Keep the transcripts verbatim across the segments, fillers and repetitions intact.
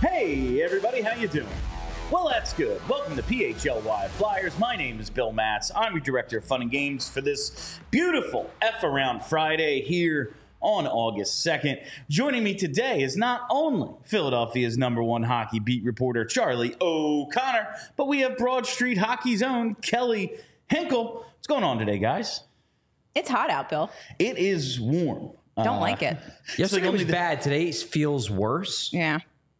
Hey, everybody, how you doing? Well, that's good. Welcome to P H L Y Flyers. My name is Bill Matz. I'm your director of fun and games for this beautiful F Around Friday here on August second. Joining me today is not only Philadelphia's number one hockey beat reporter, Charlie O'Connor, but we have Broad Street Hockey's own Kelly Hinkle. What's going on today, guys? It's hot out, Bill. It is warm. Don't uh, like it. Yesterday like was the- bad. Today feels worse. Yeah.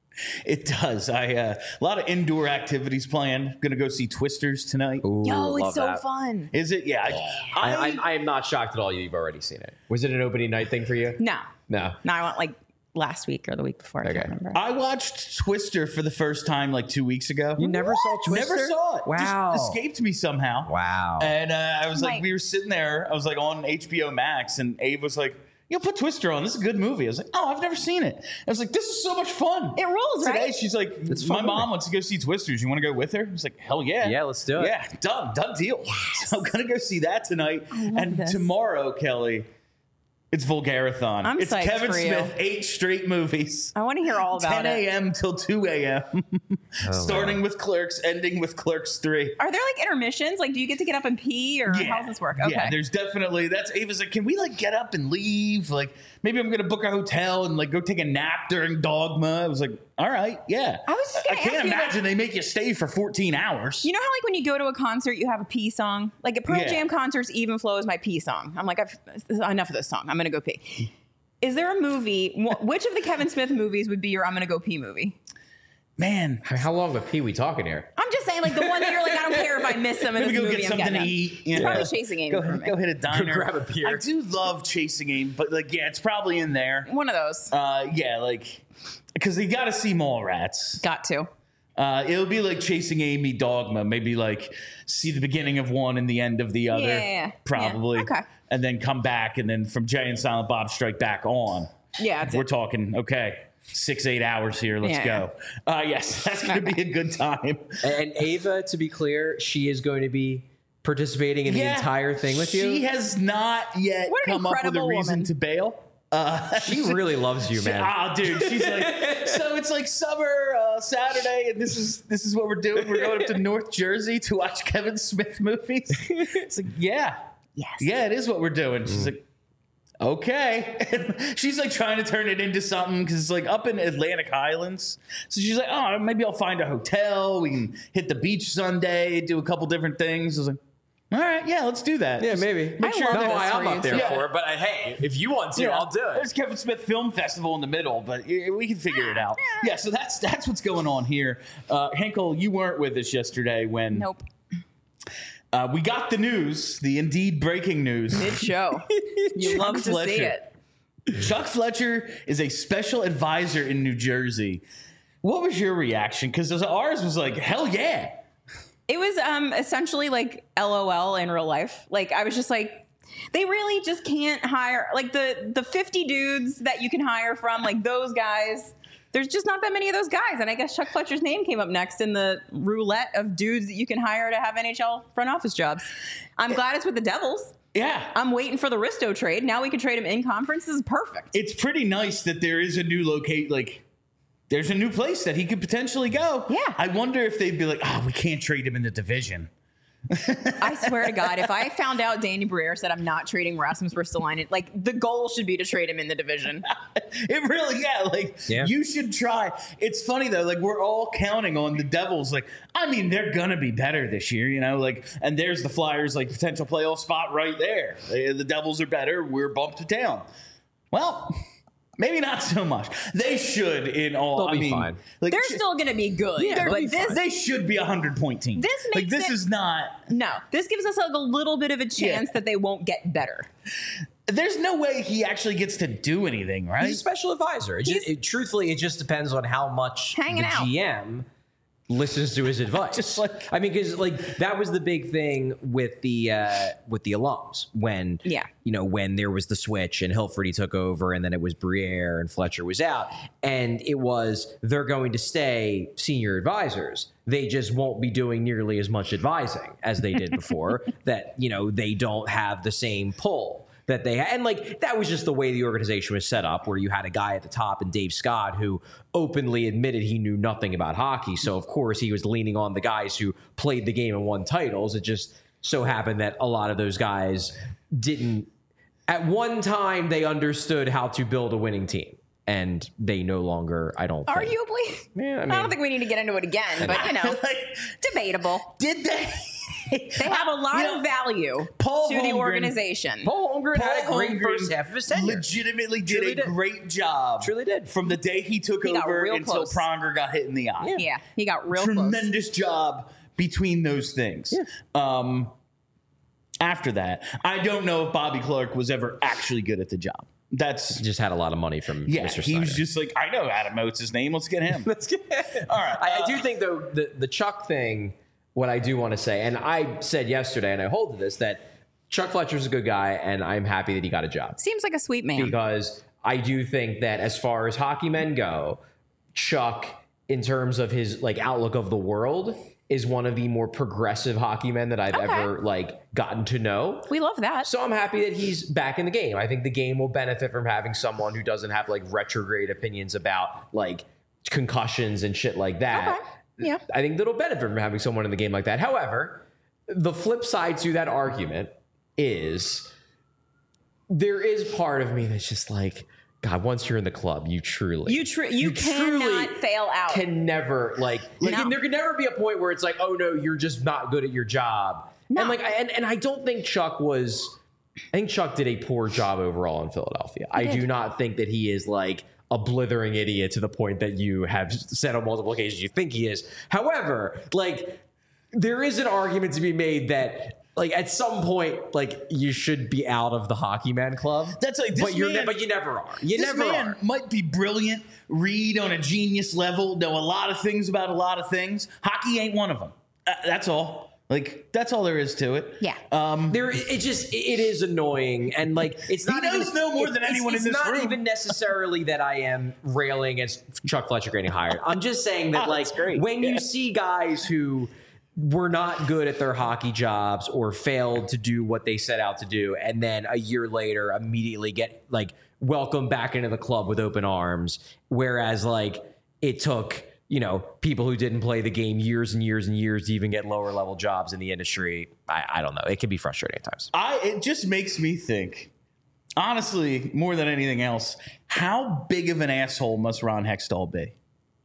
It does. I uh, a lot of indoor activities planned. Going to go see Twisters tonight. Ooh, Yo, it's love so that. fun. Is it? Yeah. I, I, I, I am not shocked at all you've already seen it. Was it an opening night thing for you? No. No. No, I went like last week or the week before. I Okay. can't remember. I watched Twister for the first time like two weeks ago. You never saw Twister? Never saw it. Wow. Just escaped me somehow. Wow. And uh, I was like, Like- we were sitting there. I was like on H B O Max, and Abe was like, "Yo, put Twister on. This is a good movie." I was like, "Oh, I've never seen it." I was like, "This is so much fun." It rules, Today, right? she's like, It's a "My fun mom movie. wants to go see Twisters. You want to go with her?" I was like, "Hell yeah, Yeah, let's do it. Yeah, done, done deal." So I'm gonna go see that tonight, and this. tomorrow, Kelly, it's Vulgarathon. I'm it's psyched Kevin for you. Smith, eight straight movies. I want to hear all about ten it. a.m. till two a.m. Starting with Clerks, ending with Clerks three. Are there like intermissions? Like, do you get to get up and pee, or how does this work? Okay. Yeah, there's definitely, that's, Ava's like, can we like get up and leave? Like, maybe I'm going to book a hotel and like go take a nap during Dogma. I was like, all right, yeah. I was just I gonna can't ask you, imagine they make you stay for fourteen hours. You know how like when you go to a concert, you have a pee song? Like at Pearl Yeah. Jam concerts, Even Flow is my pee song. I'm like, I've enough of this song. I'm going to go pee. Is there a movie, wh- which of the Kevin Smith movies would be your I'm going to go pee movie? Man, How how long of a pee we talking here? I'm just saying, like the one that you're like, I don't care if I miss some of maybe this go movie. get I'm something getting to it. eat. You It's know? probably Chasing Amy Go, for me. go hit a diner. grab a beer. I do love Chasing Amy, but like, yeah, it's probably in there. One of those. Uh, yeah, like, because you got to see Mallrats. Got to. Uh, it'll be like Chasing Amy, Dogma. Maybe like see the beginning of one and the end of the other. Yeah, yeah, yeah. Probably. Yeah, okay. And then come back, and then from Jay and Silent Bob Strike Back on. Yeah, that's We're it. talking, okay, six, eight hours here. Let's Yeah. go. Uh, yes, that's going to be a good time. And, and Ava, to be clear, she is going to be participating in the Yeah, entire thing with you. She has not yet What an come up with a incredible reason woman. to bail. Uh, She really loves you, man. Oh, dude, she's like, so it's like summer uh, Saturday, and this is this is what we're doing. We're going up to North Jersey to watch Kevin Smith movies. It's like, yeah, Yes. yeah, it is what we're doing. She's like, okay. And she's like trying to turn it into something because it's like up in Atlantic Highlands. So she's like, oh, maybe I'll find a hotel. We can hit the beach Sunday, do a couple different things. I was like, all right, yeah, let's do that. Yeah, Just maybe. Make I sure love no, that- this I, I'm for not you, there too. for it, but uh, hey, if you want to, Yeah, I'll do it. There's Kevin Smith Film Festival in the middle, but yeah, we can figure it out. Yeah, so that's that's what's going on here. Uh, Henkel, you weren't with us yesterday when Nope. uh, we got the news, the indeed breaking news. Mid show. You Chuck love to see Fletcher. it. Chuck Fletcher is a special advisor in New Jersey. What was your reaction? Because ours was like, hell yeah. It was um essentially like L O L in real life. Like I was just like, they really just can't hire like the the fifty dudes that you can hire from, like those guys. There's just not that many of those guys. And I guess Chuck Fletcher's name came up next in the roulette of dudes that you can hire to have N H L front office jobs. I'm glad it's with the Devils. Yeah. I'm waiting for the Risto trade. Now we can trade him in conference. This is perfect. It's pretty nice that there is a new locate, like, there's a new place that he could potentially go. Yeah. I wonder if they'd be like, oh, we can't trade him in the division. I swear to God, if I found out Danny Briere said I'm not trading Rasmus Ristolainen, like the goal should be to trade him in the division. It really, yeah, like, Yeah. you should try. It's funny, though, like, we're all counting on the Devils. Like, I mean, they're going to be better this year, you know? Like, and there's the Flyers, like, potential playoff spot right there. They- The Devils are better. We're bumped to town. Well, maybe not so much. They should, in all. They'll I be mean, fine. Like, They're sh- still going to be good. Yeah, but they'll be this, fine. They should be a hundred-point team. This like, makes this it- is not. no, this gives us like a little bit of a chance Yeah. that they won't get better. There's no way he actually gets to do anything, right? He's a special advisor. It just, He's- it, truthfully, it just depends on how much Hanging the out. G M listens to his advice. Just like- I mean, because like that was the big thing with the uh, with the alums when Yeah. you know when there was the switch and Hilferty took over and then it was Briere and Fletcher was out and it was they're going to stay senior advisors. They just won't be doing nearly as much advising as they did before. That you know they don't have the same pull. that they had. And like that was just the way the organization was set up, where you had a guy at the top and Dave Scott who openly admitted he knew nothing about hockey. So of course he was leaning on the guys who played the game and won titles. It just so happened that a lot of those guys didn't. At one time, they understood how to build a winning team, and they no longer, I don't think. Arguably. Yeah, I I, mean- don't think we need to get into it again, but you know, Like, debatable. did they? They have a lot You know, of value Paul to the Holmgren- organization. Paul Holmgren had a Paul great Holmgren first half of his tenure. legitimately did Truly a did. great job. Truly did. From the day he took He got over real until close. Pronger got hit in the eye. Yeah, he got real close. Tremendous job between those things. Yeah. Um, after that, I don't know if Bobby Clark was ever actually good at the job. That's Just had a lot of money from yeah. Mister He was Snyder. just like, I know Adam Oates' name. Let's get him. Let's get All right. I, I uh, do think though the the Chuck thing. What I do want to say, and I said yesterday, and I hold to this, that Chuck Fletcher's a good guy, and I'm happy that he got a job Seems like a sweet man. because I do think that as far as hockey men go, Chuck, in terms of his like outlook of the world, is one of the more progressive hockey men that I've Okay. ever like gotten to know. We love that. So I'm happy that he's back in the game. I think the game will benefit from having someone who doesn't have like retrograde opinions about like concussions and shit like that. Okay. Yeah. I think that'll benefit from having someone in the game like that. However, the flip side to that argument is there is part of me that's just like, God, once you're in the club, you truly You tr- you, truly cannot fail out. can never like, like No. there can never be a point where it's like, oh no, you're just not good at your job. No. And like, I, and, and I don't think Chuck was. I think Chuck did a poor job overall in Philadelphia. I did. do not think that he is like a blithering idiot to the point that you have said on multiple occasions you think he is. However, like there is an argument to be made that like at some point, like you should be out of the hockey man club. That's like this but you're ne- man- but you never are. You this never man are. might be brilliant, read on a genius level, know a lot of things about a lot of things. Hockey ain't one of them. Uh, that's all. Like that's all there is to it. Yeah. Um, There, it just it is annoying, and like it's He not knows even, no more it- than it's- anyone in it's this not room. even necessarily that I am railing against Chuck Fletcher getting hired. I'm just saying that Oh, like that's great. when Yeah. you see guys who were not good at their hockey jobs or failed to do what they set out to do, and then a year later immediately get like welcomed back into the club with open arms, whereas like it took. You know, people who didn't play the game years and years and years to even get lower level jobs in the industry. I, I don't know. It can be frustrating at times. I it just makes me think, honestly, more than anything else, how big of an asshole must Ron Hextall be?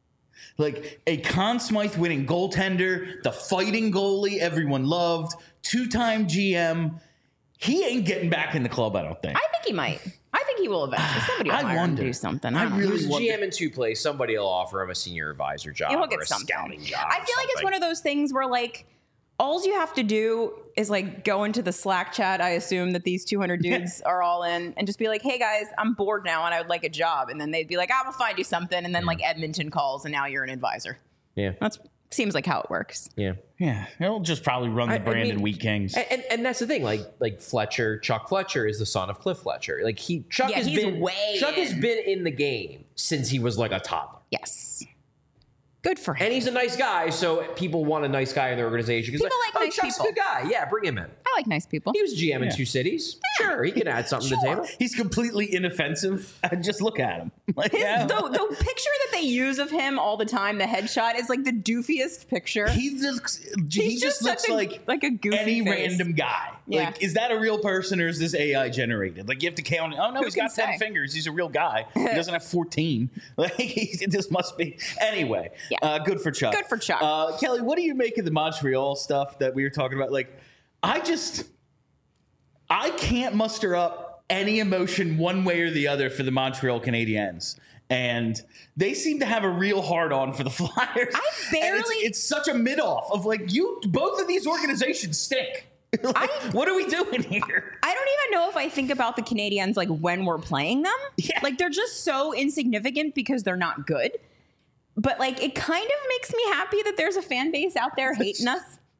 Like a Conn Smythe winning goaltender, the fighting goalie everyone loved, two-time G M. He ain't getting back in the club, I don't think. I think he might. I think he will eventually. Somebody will I hire him wonder. to do something. I I, don't know. really He was wonder- G M in two plays. Somebody will offer him a senior advisor job He'll or get a something. scouting job. I feel like it's one of those things where like all you have to do is like go into the Slack chat. I assume that these two hundred dudes are all in, and just be like, "Hey guys, I'm bored now, and I would like a job." And then they'd be like, "I will find you something." And then like Edmonton calls, and now you're an advisor. Yeah, That's seems like how it works. yeah. Yeah, he'll just probably run the I- I Brandon mean- Wheat Kings. And, and and that's the thing, like like Fletcher, Chuck Fletcher is the son of Cliff Fletcher. Like he, Chuck Yeah, has he's been way Chuck has in. been in the game since he was like a toddler, Yes, good for him. and he's a nice guy. So people want a nice guy in their organization because People like oh, nice Chuck's people. a good guy. Yeah, bring him in. I like nice people. He was G M in Yeah. two cities. Sure, he can add something to the table. He's completely inoffensive. Just look at him. Like, His, yeah. the, the picture that they use of him all the time, the headshot, is like the doofiest picture. He looks. He He's just, just looks such a- like like a goofy any face. random guy. Yeah. Like, is that a real person or is this A I generated? Like, you have to count. Oh no, Who he's can got ten say? fingers. He's a real guy. He doesn't have fourteen. Like, he, this must be. Anyway, Yeah. uh, good for Chuck. Good for Chuck. Uh, Kelly, what do you make of the Montreal stuff that we were talking about? Like, I just, I can't muster up any emotion one way or the other for the Montreal Canadiens. And they seem to have a real hard on for the Flyers. I And it's- barely- It's, such a mid off of like, you, both of these organizations stink. Like, I- what are we doing here? I don't even know if I think about the Canadians like when we're playing them. Yeah. Like they're just so insignificant because they're not good. But like it kind of makes me happy that there's a fan base out there hating us.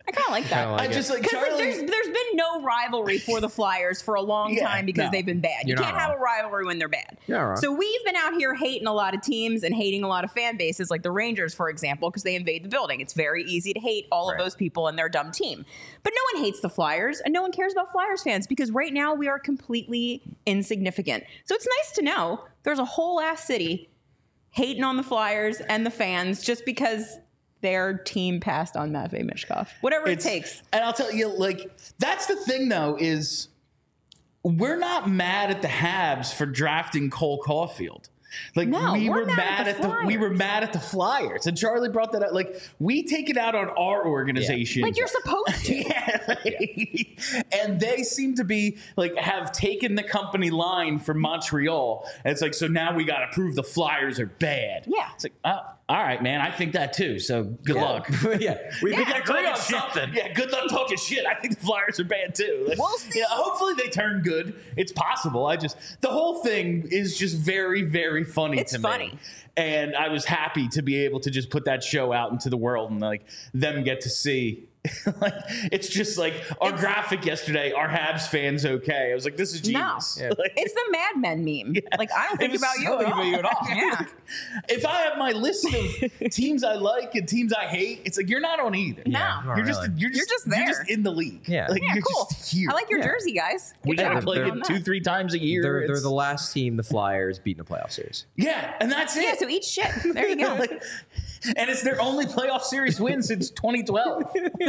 I kind of like that. like I just like Because like, Charlie. there's there's been no rivalry for the Flyers for a long Yeah, time because no. they've been bad. You You're not can't have wrong. a rivalry when they're bad. You're not wrong. So we've been out here hating a lot of teams and hating a lot of fan bases, like the Rangers, for example, because they invade the building. It's very easy to hate all Right. of those people and their dumb team. But no one hates the Flyers, and no one cares about Flyers fans because right now we are completely insignificant. So it's nice to know there's a whole ass city hating on the Flyers and the fans just because their team passed on Matvei Mishkov. Whatever It's- it takes. And I'll tell you, like, that's the thing, though, is we're not mad at the Habs for drafting Cole Caulfield. Like No, we we're were mad mad at at the the, we were Flyers. mad at the Flyers, and Charlie brought that up. Like we take it out on our organization, Like you're supposed to. yeah, like- and they seem to be like have taken the company line from Montreal. And it's like so now we got to prove the Flyers are bad. Yeah. it's like oh, all right, man. I think that too. So good luck. yeah, we, we Yeah. can agree on Shit. something. Yeah, good luck talking shit. I think the Flyers are bad too. Like, We'll see. you know, hopefully they turn good. It's possible. I just the whole thing is just very, very funny It's to funny. me. And I was happy to be able to just put that show out into the world and like them get to see. Like it's just like our It's- graphic yesterday. Are Habs fans okay? I was like, this is No. genius. Yeah. Like, It's the Mad Men meme. Like I don't it think was about you so at all. about you at all. Yeah. If I have my list of teams I like and teams I hate, it's like you're not on either. No. not You're just, really. you're just just you're there. just in the league. Yeah. like, Yeah, you're cool. just here. I like your Yeah. jersey, guys. We Good got to job play on it that. two, three times a year. They're, they're It's- the last team the Flyers beat in the playoff series. yeah, and that's it. Yeah, so eat shit. There you go. Like, and it's their only playoff series win since twenty twelve,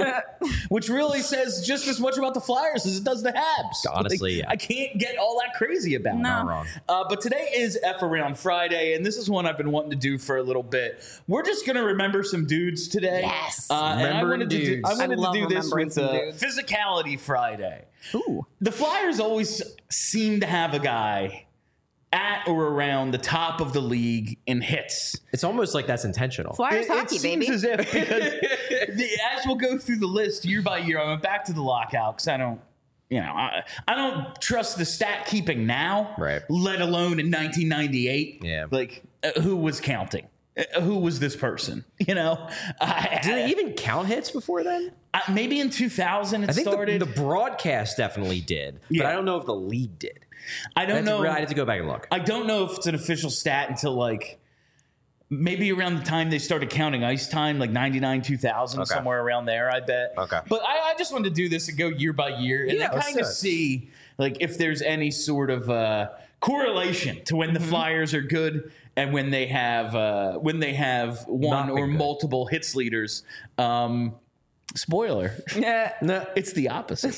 which really says just as much about the Flyers as it does the Habs. Honestly, Like, yeah. I can't get all that crazy about it. No. Not wrong. Uh, but today is F Around Friday, and this is one I've been wanting to do for a little bit. We're just going to remember some dudes today. Yes. Uh, and I Remembering wanted to do, dudes. I I wanted to love do this remembering with some uh, dudes. Physicality Friday. Ooh. The Flyers always seem to have a guy at or around the top of the league in hits. It's almost like that's intentional. Flyers It, it hockey, seems baby. as if because the, as we'll go through the list year by year, I went back to the lockout because I don't, you know, I, I don't trust the stat keeping now, Right. let alone in nineteen ninety-eight. Yeah. like uh, who was counting? Uh, who was this person? You know, I, Did they even count hits before then? I, maybe in two thousand it I think started. the, the broadcast definitely did, but Yeah. I don't know if the league did. I I don't had to- know. I had to go back and look. I don't know if it's an official stat until like maybe around the time they started counting ice time, like ninety-nine, two thousand, Okay. somewhere around there, I bet. Okay. But I, I just wanted to do this and go year by year and Yeah, then let's kind do of it. see like if there's any sort of uh, correlation to when the Mm-hmm. Flyers are good and when they have uh, when they have one Not or been good. multiple hits leaders. Um, spoiler. Yeah. No, It's the opposite.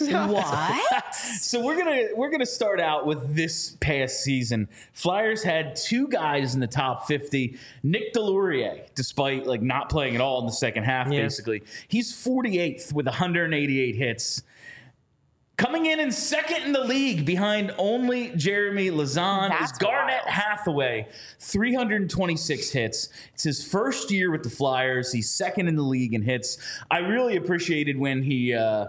What? So we're gonna we're gonna start out with this past season. Flyers had two guys in the top fifty. Nick Delorier, despite like not playing at all in the second half, Yeah. basically, he's forty-eighth with one hundred eighty-eight hits. Coming in in second in the league behind only Jeremy Lazan That's is Garnett wild. Hathaway, three hundred twenty-six hits. It's his first year with the Flyers. He's second in the league in hits. I really appreciated when he uh,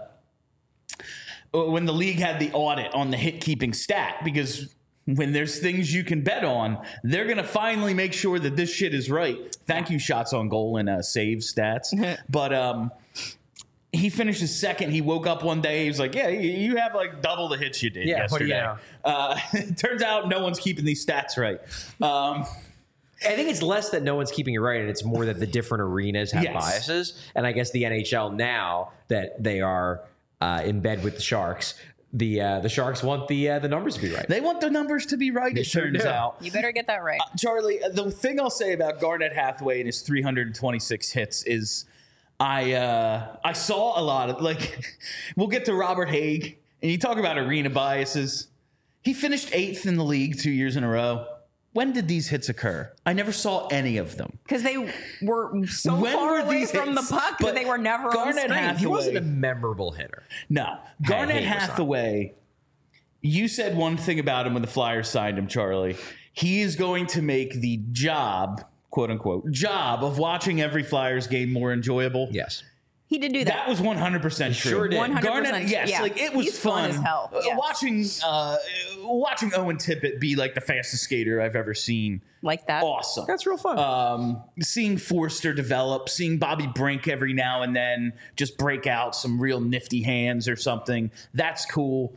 when the league had the audit on the hit keeping stat because when there's things you can bet on, they're going to finally make sure that this shit is right. Thank you, shots on goal and uh, save stats. But um, he finishes second. He woke up one day. He was like, yeah, you you have like double the hits you did Yeah, what do yesterday. you know? Uh, it turns out no one's keeping these stats right. Um, I think it's less that no one's keeping it right, and it's more that the different arenas have Yes. biases. And I guess the N H L now that they are uh, in bed with the Sharks, the uh, the Sharks want the uh, the numbers to be right. they want the numbers to be right, it sure turns do. out. You better get that right. Charlie, the thing I'll say about Garnett Hathaway and his three hundred twenty-six hits is I uh, I saw a lot of, like, we'll get to Robert Haig, and you talk about arena biases. He finished eighth in the league two years in a row. When did these hits occur? I never saw any of them. Because they were so When far were away these from hits? the puck But that they were never Garnett on screen. Hathaway- He wasn't a memorable hitter. No. Garnett Haig was not. Hathaway, you said one thing about him when the Flyers signed him, Charlie. He is going to make the job, quote unquote, job of watching every Flyers game more enjoyable. Yes. He did do that. That was one hundred percent true. sure did. one hundred percent. Garnett, yes, yeah. like it was He's fun, as hell. Uh, Yeah. watching uh, watching Owen Tippett be like the fastest skater I've ever seen. Like that. Awesome. That's real fun. Um, seeing Forster develop, seeing Bobby Brink every now and then just break out some real nifty hands or something. That's cool.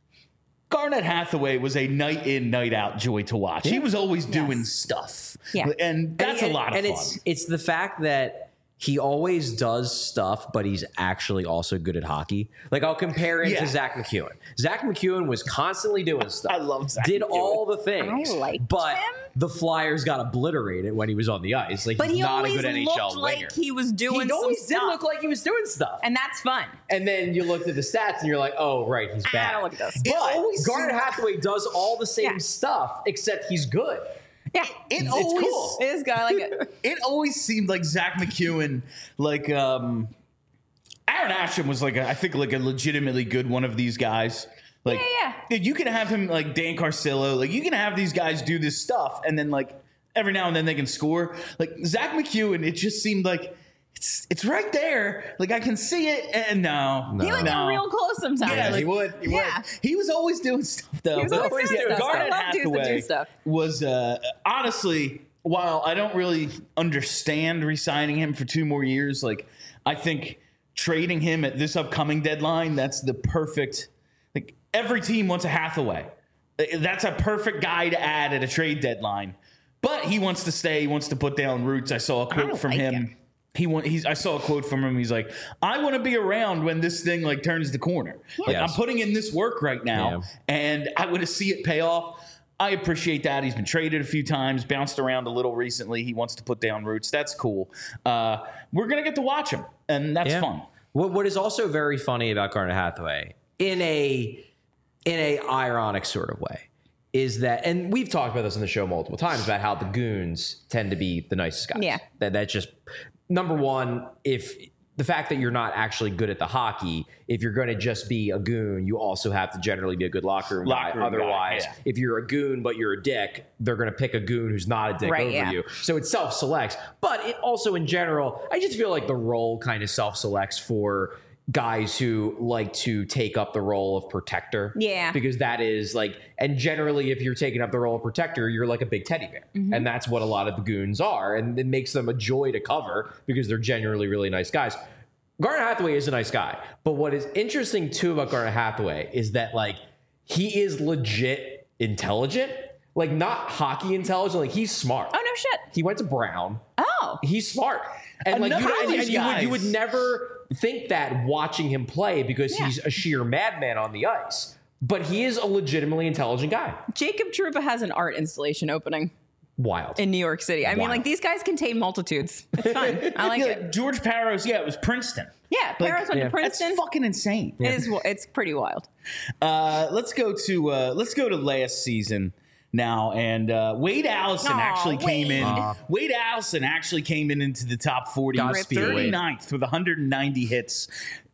Garnett Hathaway was a night in, night out joy to watch. He was always doing stuff. Yeah. And that's and, a lot of and fun. it's it's the fact that he always does stuff, but he's actually also good at hockey. Like I'll compare him Yeah. to Zach McEwen. Zach McEwen was constantly doing stuff. I love Zach Did McEwen. all the things. I liked but him. the Flyers got obliterated when he was on the ice. Like But he's he not a always good N H L looked winger. like he was doing He always some did stuff. look like he was doing stuff. And that's fun. And then you looked at the stats and you're like, oh, right, he's bad. I don't look at those. It But always Garnet seemed- Hathaway does all the same Yeah. stuff, except he's good. Yeah. It it's always- cool. It is good. I like it. It always seemed like Zach McEwen, like um, Aaron Asham was like a, I think like a legitimately good one of these guys. Like, Yeah, yeah. You can have him like Dan Carcillo, like you can have these guys do this stuff, and then like every now and then they can score. Like Zach McEwen, it just seemed like it's it's right there. Like I can see it, and no, He would no. get real close sometimes. Yeah, like, he would. He Yeah. He was always doing stuff though. He was But always doing yeah, stuff. Garnet I love dudes that do Hathaway stuff. was uh, honestly, while I don't really understand re-signing him for two more years, like I think trading him at this upcoming deadline, that's the perfect. Like every team wants a Hathaway. That's a perfect guy to add at a trade deadline. But he wants to stay. He wants to put down roots. I saw a quote don't from like him. him. He want, he's. I saw a quote from him. He's like, "I want to be around when this thing like turns the corner. Like Yes. I'm putting in this work right now, Yeah. and I want to see it pay off." I appreciate that. He's been traded a few times, bounced around a little recently. He wants to put down roots. That's cool. Uh, we're gonna get to watch him, and that's Yeah. fun. What What is also very funny about Garnet Hathaway, in a in a ironic sort of way, is that, and we've talked about this on the show multiple times about how the goons tend to be the nicest guys. Yeah. That that's just number one. If the fact that you're not actually good at the hockey, if you're going to just be a goon, you also have to generally be a good locker room Locker guy. room guy, Otherwise, yeah. if you're a goon but you're a dick, they're going to pick a goon who's not a dick Right, over yeah. you. So it self-selects. But it also, in general, I just feel like the role kind of self-selects for guys who like to take up the role of protector. Yeah. Because that is like, and generally if you're taking up the role of protector, you're like a big teddy bear. Mm-hmm. And that's what a lot of the goons are. And it makes them a joy to cover because they're generally really nice guys. Garnet Hathaway is a nice guy. But what is interesting too about Garnet Hathaway is that like he is legit intelligent. Like not hockey intelligent. Like he's smart. Oh, no shit. He went to Brown. Oh. He's smart. And like Enough you, of and, these and you would you would guys. never think that watching him play because Yeah. he's a sheer madman on the ice. But he is a legitimately intelligent guy. Jacob Trouba has an art installation opening Wild. in New York City. I mean, Wow. like these guys contain multitudes. It's fun. I like Yeah, it. like George Parros, yeah, it was Princeton. Yeah, Like, Paris went yeah. to Princeton. That's fucking insane. It is. It's pretty wild. Uh, let's go to uh, let's go to last season now, and uh, Wade Allison Aw, actually came in. Wade. Wade Allison actually came in into the top forty. He was Godspeed, Wade. thirty-ninth with one hundred ninety hits.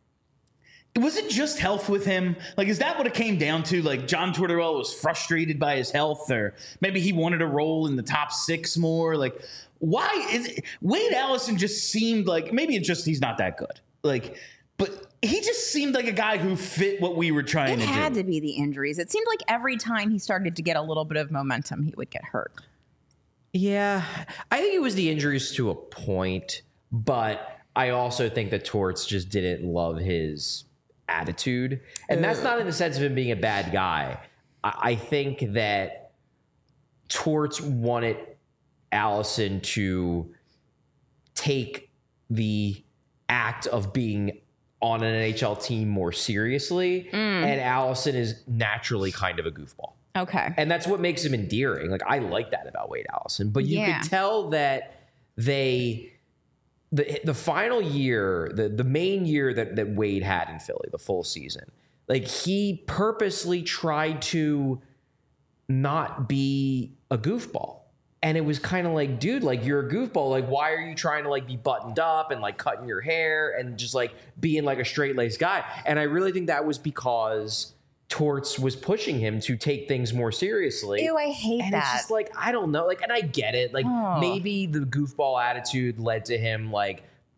Was it just health with him? Like, is that what it came down to? Like, John Tortorella was frustrated by his health, or maybe he wanted to roll in the top six more. Like, why is it, Wade Allison just seemed like maybe it's just he's not that good. Like, but he just seemed like a guy who fit what we were trying It to had do. to be the injuries. It seemed like every time he started to get a little bit of momentum, he would get hurt. Yeah. I think it was the injuries to a point, but I also think that Torts just didn't love his attitude. And that's not in the sense of him being a bad guy. I, I think that Torts wanted Allison to take the act of being on an N H L team more seriously. And Allison is naturally kind of a goofball. Okay. And that's what makes him endearing. Like, I like that about Wade Allison. But you Yeah. could tell that they the the final year, the, the main year that, that Wade had in Philly, the full season, like he purposely tried to not be a goofball. And it was kind of like, dude, like you're a goofball. Like, why are you trying to like be buttoned up and like cutting your hair and just like being like a straight laced guy? And I really think that was because Torts was pushing him to take things more seriously. Ew, I hate and that. it's just like, I don't know. Like, and I get it. Like, Oh. maybe the goofball attitude led to him like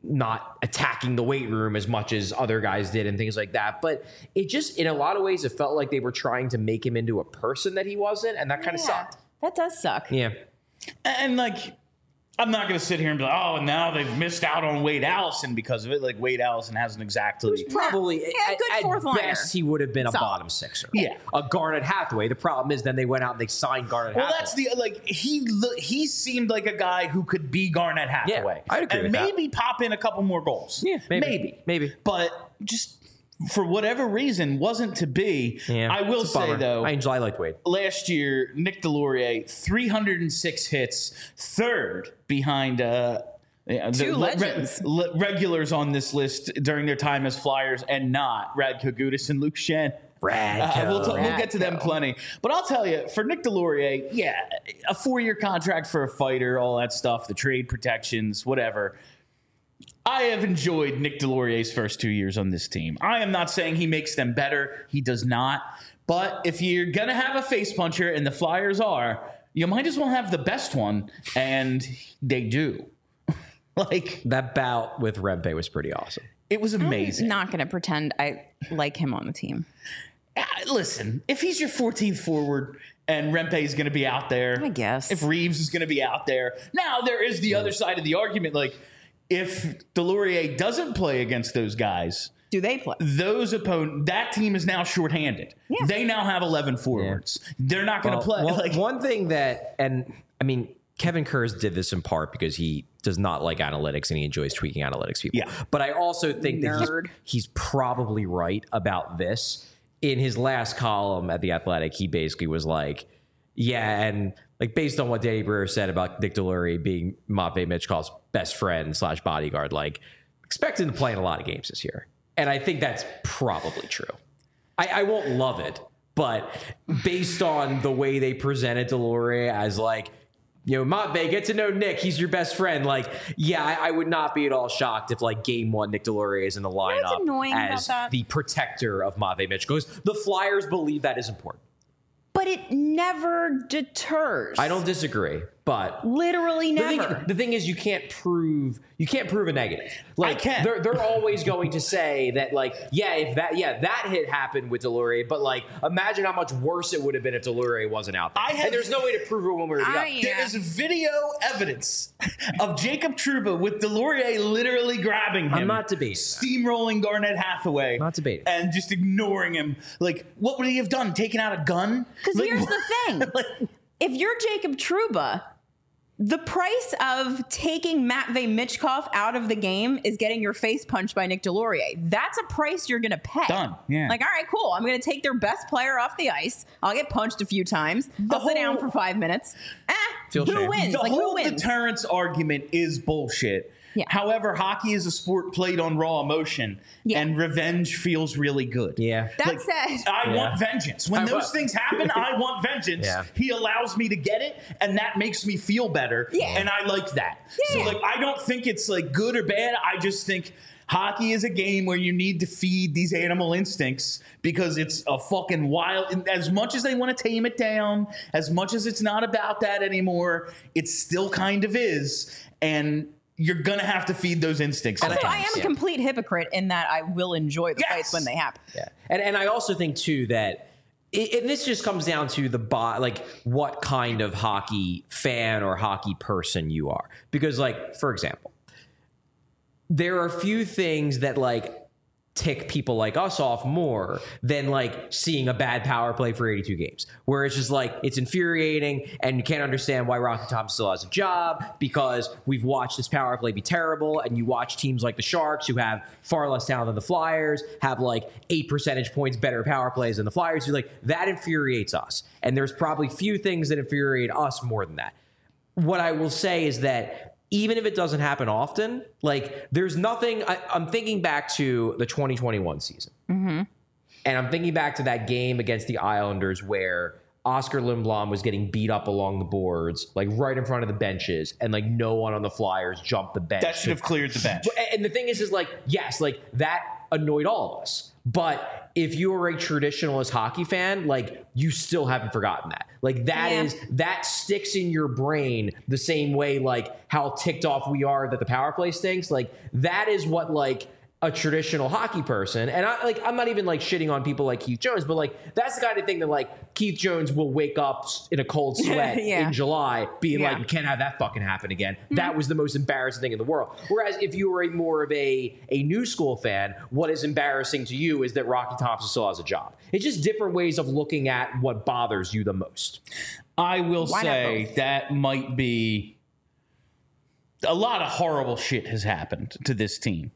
not attacking the weight room as much as other guys did and things like that. But it just, in a lot of ways, it felt like they were trying to make him into a person that he wasn't, and that kind of Yeah, sucked. That does suck. Yeah. And like, I'm not going to sit here and be like, oh, and now they've missed out on Wade Allison because of it. Like, Wade Allison hasn't exactly. Probably, Yeah, at, good at fourth liner. best, he would have been a Solid. bottom sixer. Yeah. A Garnet Hathaway. The problem is then they went out and they signed Garnet Well, Hathaway. that's the like he lo- he seemed like a guy who could be Garnett Hathaway, I'd agree and with that. maybe pop in a couple more goals. Yeah, maybe. maybe, Maybe. but just for whatever reason wasn't to be. Yeah, I will it's a say bummer. though, I enjoy I liked Wade. last year Nick Delorier, three hundred six hits, third behind uh, yeah, the Two le- legends. le- regulars on this list during their time as Flyers, and not Radko Gudas and Luke Shen. Radko. Uh, we'll, t- we'll get to them Radko. plenty. But I'll tell you, for Nick Delorier, yeah, a four-year contract for a fighter, all that stuff, the trade protections, whatever. I have enjoyed Nick Delorier's first two years on this team. I am not saying he makes them better. He does not. But if you're going to have a face puncher, and the Flyers are, you might as well have the best one, and they do. Like, That bout with Rempe was pretty awesome. it was amazing. I'm not going to pretend I like him on the team. Uh, Listen, if he's your fourteenth forward and Rempe is going to be out there, I guess. If Reeves is going to be out there, now there is the other side of the argument. Like, if Delorier doesn't play against those guys, Do they play? those opponent that team is now shorthanded. Yeah. They now have eleven forwards. They're not going to Well, play. one- like, one thing that, and I mean, Kevin Kurz did this in part because he does not like analytics and he enjoys tweaking analytics people. Yeah. But I also think that Nerd. he's, he's probably right about this. In his last column at The Athletic, he basically was like, yeah, and like based on what Danny Brewer said about Nick Delorier being Matvei Michkov's best friend slash bodyguard, like expect him to play in a lot of games this year. And I think that's probably true. I, I won't love it, but based on the way they presented Delorier as like, you know, Matvei, get to know Nick. He's your best friend. Like, yeah, I, I would not be at all shocked if, like, game one, Nick Delorier is in the what's lineup annoying about as that? the protector of Matvei Michkov. Because the Flyers believe that is important. But it never deters. I don't disagree, but Literally the never. thing, the thing is, you can't prove you can't prove a negative. Like, can. They're they're always going to say that, like, yeah, if that yeah that hit happened with Delorier, but like, imagine how much worse it would have been if Delorier wasn't out there. I have- and there's no way to prove it one way or the other. I- there is video evidence of Jacob Trouba with Delorier literally grabbing him. I'm not debating that. Steamrolling Garnett Hathaway. Not debating. And just ignoring him. Like, what would he have done? Taken out a gun? Because Like, here's the thing. like, If you're Jacob Trouba, the price of taking Matvei Michkov out of the game is getting your face punched by Nick Delorier. That's a price you're going to pay. Done, yeah. Like, all right, cool. I'm going to take their best player off the ice. I'll get punched a few times. I'll whole- sit down for five minutes. Eh, Feel who shame. wins? the Like, who whole wins? deterrence argument is bullshit. Yeah. However, hockey is a sport played on raw emotion, Yeah. and revenge feels really good. Yeah. That Like, said, I Yeah. want vengeance. When I those want- things happen, I want vengeance. Yeah. He allows me to get it, and that makes me feel better. Yeah. And I like that. Yeah. So, like, I don't think it's like good or bad. I just think hockey is a game where you need to feed these animal instincts because it's a fucking wild. and As much as they want to tame it down, as much as it's not about that anymore, it still kind of is. And you're gonna have to feed those instincts. also, I sometimes. am a Yeah. complete hypocrite in that I will enjoy the Yes. fights when they happen. Yeah, and and I also think too that, it, and this just comes down to the bo- like what kind of hockey fan or hockey person you are. Because, like, for example, there are a few things that like tick people like us off more than like seeing a bad power play for eighty-two games, where it's just like it's infuriating and you can't understand why Rocky Thompson still has a job because we've watched this power play be terrible. And you watch teams like the Sharks, who have far less talent than the Flyers, have like eight percentage points better power plays than the Flyers. You're like, that infuriates us. And there's probably few things that infuriate us more than that. What I will say is that even if it doesn't happen often, like there's nothing. I, I'm thinking back to the twenty twenty-one season, Mm-hmm. and I'm thinking back to that game against the Islanders where Oscar Lindblom was getting beat up along the boards, like right in front of the benches, and like no one on the Flyers jumped the bench. That should have cleared the bench. And the thing is, is like, yes, like that annoyed all of us. But if you are a traditionalist hockey fan, like you still haven't forgotten that. Like that Yeah. is that sticks in your brain the same way like how ticked off we are that the power play stinks. Like that is what like a traditional hockey person, and I like I'm not even like shitting on people like Keith Jones, but like that's the kind of thing that like Keith Jones will wake up in a cold sweat Yeah. in July being Yeah. like, you can't have that fucking happen again. That was the most embarrassing thing in the world. Whereas if you were a more of a a new school fan, what is embarrassing to you is that Rocky Thompson still has a job. It's just different ways of looking at what bothers you the most. I will Why not say both? that might be a lot of horrible shit has happened to this team.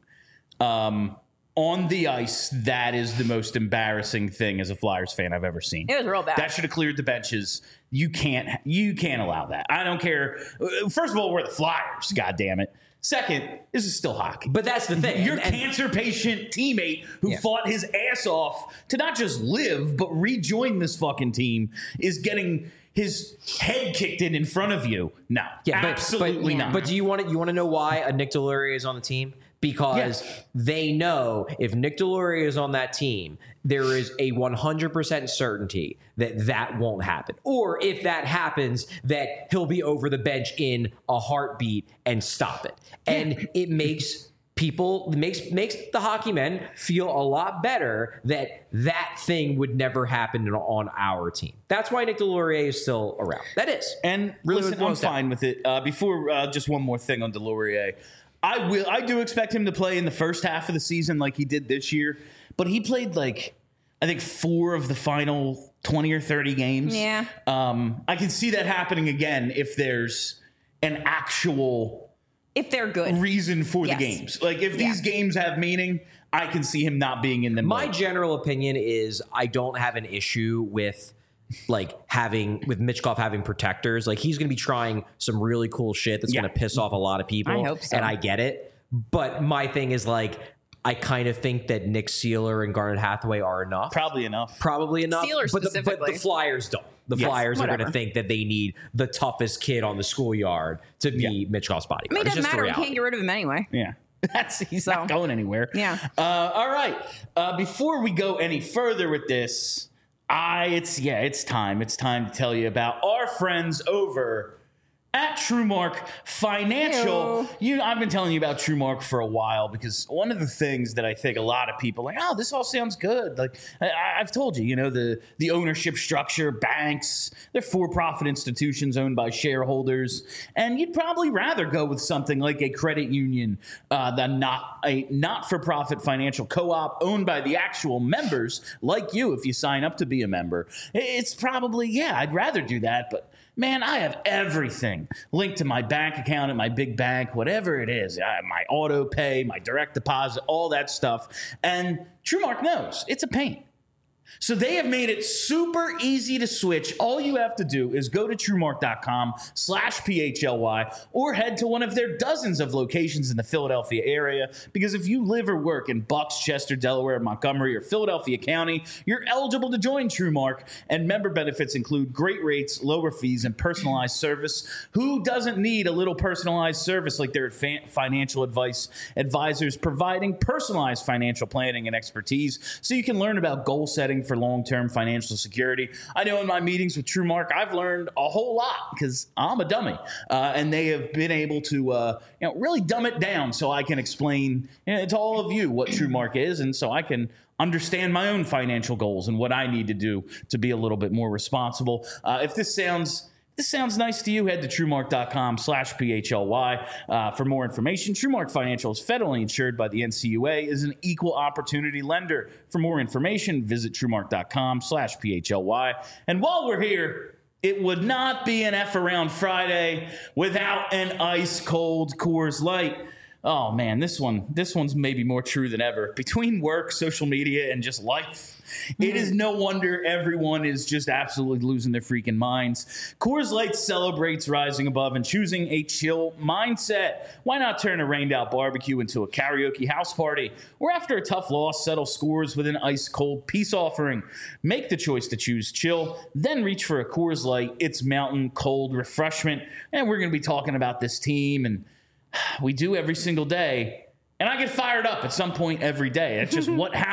Um, on the ice, that is the most embarrassing thing as a Flyers fan I've ever seen. It was real bad. That should have cleared the benches. You can't. You can't allow that. I don't care. First of all, we're the Flyers. God damn it. Second, this is still hockey. But that's the thing. Your And- and- cancer patient teammate who Yeah. fought his ass off to not just live, but rejoin this fucking team is getting his head kicked in in front of you. No, Yeah, but, absolutely but, not. But do you want to you want to know why a Nick Deslauriers is on the team? Because Yes. they know if Nick Deslauriers is on that team, there is a one hundred percent certainty that that won't happen. Or if that happens, that he'll be over the bench in a heartbeat and stop it. And it makes people makes makes the hockey men feel a lot better that that thing would never happen on our team. That's why Nick Deslauriers is still around. That is. And Really listen, what it I'm boils down. fine with it. Uh, before, uh, just one more thing on Delorier. I will. I do expect him to play in the first half of the season like he did this year, but he played like I think four of the final twenty or thirty games. Yeah. Um, I can see that happening again if there's an actual if they're good. reason for Yes. the games. Like if these Yeah. games have meaning, I can see him not being in them. My more. general opinion is I don't have an issue with like having with Mitchkov having protectors. Like he's going to be trying some really cool shit that's Yeah. going to piss off a lot of people. I hope so. And I get it. But my thing is like I kind of think that Nick Sealer and Garnet Hathaway are enough. Probably enough. Probably enough. Sealer but, the, but specifically. the Flyers don't. The Yes, Flyers are going whatever. to think that they need the toughest kid on the schoolyard to be Yeah. Mitchkov's bodyguard. I mean, it It's doesn't just the matter. We reality. can't get rid of him anyway. Yeah. That's he's So, not going anywhere. yeah. Uh, all right. Uh, before we go any further with this, I it's yeah, it's time. It's time to tell you about our friends over at TrueMark Financial. Ew. You, I've been telling you about TrueMark for a while because one of the things that I think a lot of people are like, oh, this all sounds good. Like I, I've told you, you know, the the ownership structure, banks, they're for-profit institutions owned by shareholders, and you'd probably rather go with something like a credit union uh, than not a not-for-profit financial co-op owned by the actual members, like you. If you sign up to be a member, it's probably yeah, I'd rather do that, but. Man, I have everything linked to my bank account at my big bank, whatever it is. I have my auto pay, my direct deposit, all that stuff. And TrueMark knows it's a pain. So they have made it super easy to switch. All you have to do is go to TrueMark.com slash PHLY or head to one of their dozens of locations in the Philadelphia area. Because if you live or work in Bucks, Chester, Delaware, Montgomery, or Philadelphia County, you're eligible to join TrueMark. And member benefits include great rates, lower fees, and personalized service. Who doesn't need a little personalized service like their fa- financial advice advisors providing personalized financial planning and expertise so you can learn about goal setting for long-term financial security. I know in my meetings with TrueMark, I've learned a whole lot because I'm a dummy, uh, and they have been able to, uh, you know, really dumb it down so I can explain you know, to all of you what TrueMark is, and so I can understand my own financial goals and what I need to do to be a little bit more responsible. Uh, if this sounds This sounds nice to you, head to TrueMark.com slash PHLY uh, for more information. TrueMark Financial is federally insured by the N C U A, is an equal opportunity lender. For more information, visit TrueMark.com slash PHLY. And while we're here, it would not be an F Around Friday without an ice cold Coors Light. Oh man, this one, this one's maybe more true than ever. Between work, social media, and just life, it is no wonder everyone is just absolutely losing their freaking minds. Coors Light celebrates rising above and choosing a chill mindset. Why not turn a rained out barbecue into a karaoke house party? Or after a tough loss, settle scores with an ice cold peace offering. Make the choice to choose chill, then reach for a Coors Light. It's mountain cold refreshment. And we're going to be talking about this team, and we do every single day. And I get fired up at some point every day. That's just what happens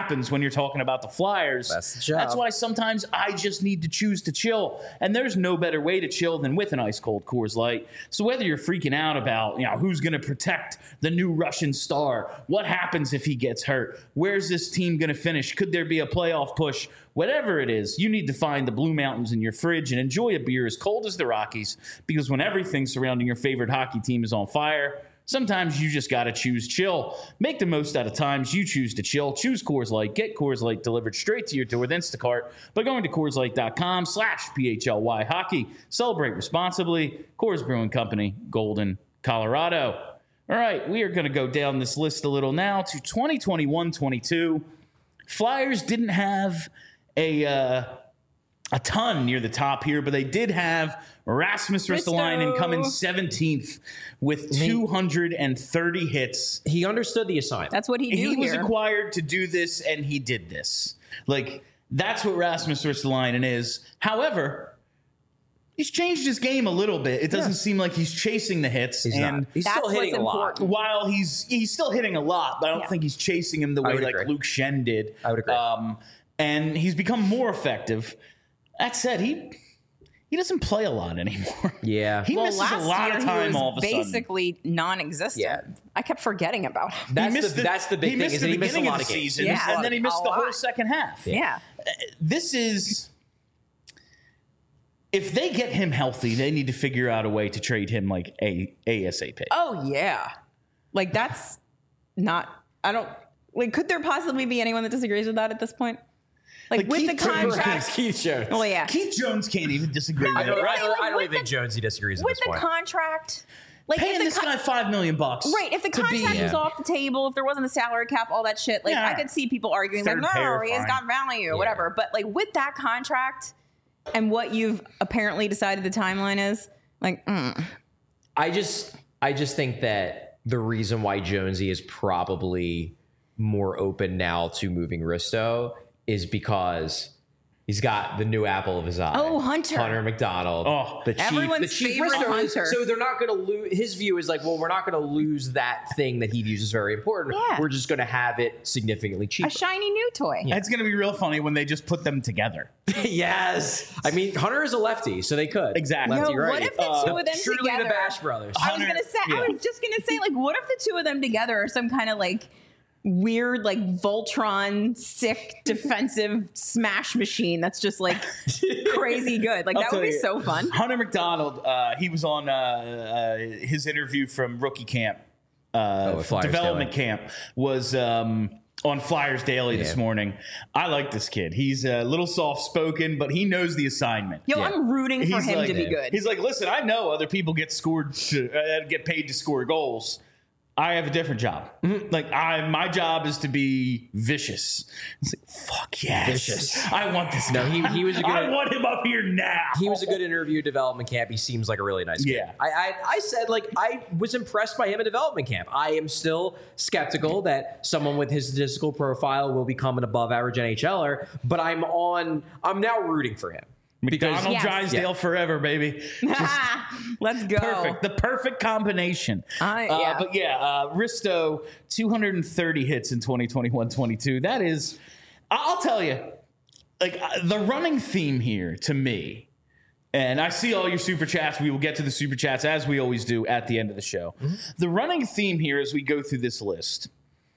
happens when you're talking about the Flyers. That's the job. That's why sometimes I just need to choose to chill. And there's no better way to chill than with an ice cold Coors Light. So whether you're freaking out about, you know, who's going to protect the new Russian star, what happens if he gets hurt, where's this team going to finish, could there be a playoff push, whatever it is, you need to find the Blue Mountains in your fridge and enjoy a beer as cold as the Rockies, because when everything surrounding your favorite hockey team is on fire, sometimes you just got to choose chill. Make the most out of times you choose to chill. Choose Coors Light. Get Coors Light delivered straight to your door with Instacart by going to Coors Light dot com slash P H L Y hockey. Celebrate responsibly. Coors Brewing Company, Golden, Colorado. All right, we are going to go down this list a little now to twenty twenty-one twenty-two. Flyers didn't have a uh, a ton near the top here, but they did have Rasmus Ristolainen coming seventeenth with two hundred thirty hits. He understood the assignment. That's what he do He was here. acquired to do this, and he did this. Like, that's what Rasmus Ristolainen is. However, he's changed his game a little bit. It doesn't Yeah. seem like he's chasing the hits. He's and not. He's That's still hitting what's a lot. important. while he's he's still hitting a lot, but I don't Yeah. think he's chasing him the I way would like agree. Luke Shen did. I would agree. Um, and he's become more effective. That said, he he doesn't play a lot anymore. Yeah. he well, misses last a lot year of he time was all of a sudden. basically non-existent. Yeah. I kept forgetting about him. That's He missed the, that's the big he thing. missed Is the that he missed a beginning lot of of the games. season, Yeah. and then he missed A the whole lot. second half. Yeah. This is, if they get him healthy, they need to figure out a way to trade him like a ASAP. Oh yeah. Like that's not. I don't. Like, could there possibly be anyone that disagrees with that at this point? Like, Like with Keith the Jones contract. Perhaps Keith Jones. Well, yeah. Keith Jones can't even disagree I with don't, it. I Right? don't, I don't With even think the- Jones he disagrees at With this the point. contract. Like Paying if the this con- guy five million bucks. Right, if the to be- contract was Yeah. off the table, if there wasn't a salary cap, all that shit, like Yeah. I could see people arguing Third like, pair, no, he has fine. got value, whatever. But like with that contract and what you've apparently decided the timeline is, like, mm. I just I just think that the reason why Jonesy is probably more open now to moving Risto is because he's got the new apple of his eye. Oh, Hunter. Hunter McDonald. Oh. the chief, Everyone's the chief favorite Risto is- Hunter. So they're not going to lose. His view is like, well, we're not going to lose that thing that he views as very important. Yeah. We're just going to have it significantly cheaper. a shiny new toy. It's going to be real funny when they just put them together. Yes. I mean, Hunter is a lefty, so they could. Exactly. Yo, Lefty, what right. if the Uh, two of them Truly together? the Bash Brothers. I was Hunter- gonna say. yeah. I was just gonna say, like, what if the two of them together are some kind of like weird, like Voltron, sick defensive smash machine that's just like crazy good? Like I'll that would tell be you, so fun. Hunter McDonald, uh, he was on uh, uh, his interview from rookie camp, uh, Oh, Flyers development Daily. camp, was um, on Flyers Daily this Yeah. morning. I like this kid. He's a little soft spoken, but he knows the assignment. Yo, Yeah. I'm rooting for He's him like- to be good. He's like, listen, I know other people get scored to uh, get paid to score goals. I have a different job. Mm-hmm. Like I, my job is to be vicious. It's like, fuck yes, Vicious. I want this. No, guy. he- he was a good- I want him up here now. He was a good interview at development camp. He seems like a really nice kid. Yeah. I, I I said like I was impressed by him at development camp. I am still skeptical that someone with his statistical profile will become an above average N H Ler, but I'm on I'm now rooting for him. McDonald Yes. Drysdale Yeah. forever, baby. Let's go. Perfect. The perfect combination. I- Uh, yeah. but yeah, uh, Risto, two hundred thirty hits in twenty twenty-one twenty-two. That is, I- I'll tell you, like uh, the running theme here to me, and I see all your super chats. We will get to the super chats as we always do at the end of the show. The running theme here as we go through this list,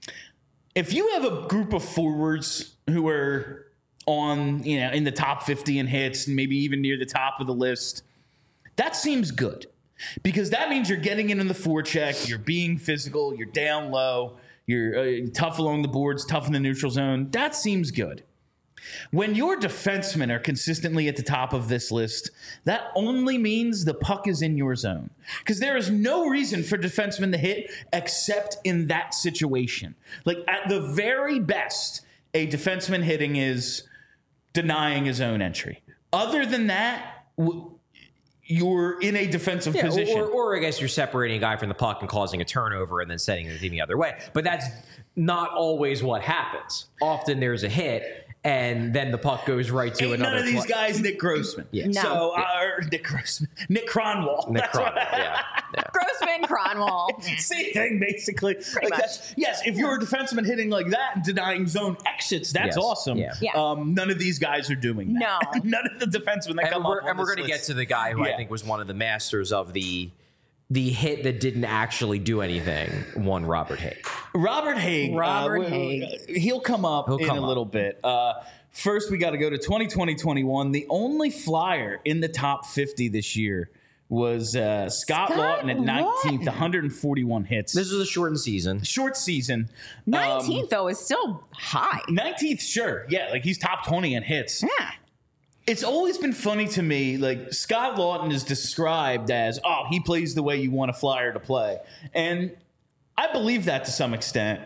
if you have a group of forwards who are on, you know, in the top fifty in hits and maybe even near the top of the list, that seems good because that means you're getting into the forecheck, you're being physical, you're down low, you're uh, tough along the boards, tough in the neutral zone. That seems good. When your defensemen are consistently at the top of this list, that only means the puck is in your zone. Because there is no reason for defensemen to hit except in that situation. Like at the very best, a defenseman hitting is denying his own entry. Other than that, w- you're in a defensive Yeah, position. or, or I guess you're separating a guy from the puck and causing a turnover and then setting the team the other way. But that's not always what happens. Often there's a hit and then the puck goes right to Ain't another none of these play. guys Nick Grossman. Yeah. No. So, uh, or Nick Grossman. Nick Cronwall. Nick That's what- Cronwall, yeah, yeah. Grossman, Ron Wall. Same thing, basically. Like much. that's, yes, if you're a defenseman hitting like that and denying zone exits, that's Yes. awesome. Yeah. Yeah. Um, none of these guys are doing that. No. None of the defensemen that And come we're, up on and we're this going to get list. to the guy who Yeah. I think was one of the masters of the the hit that didn't actually do anything. One Robert Haig. Robert Haig. Robert uh, Haig. He'll come up He'll in come a up. little bit. Uh, first, we got to go to twenty twenty twenty-one. The only Flyer in the top fifty this year was uh, Scott, Scott Lawton at nineteenth, Laughton. one hundred forty-one hits. This was a shortened season. Short season. nineteenth, though, is still high. Um, nineteenth, sure. Yeah, like he's top twenty in hits. Yeah. It's always been funny to me, like Scott Lawton is described as, oh, he plays the way you want a Flyer to play. And I believe that to some extent.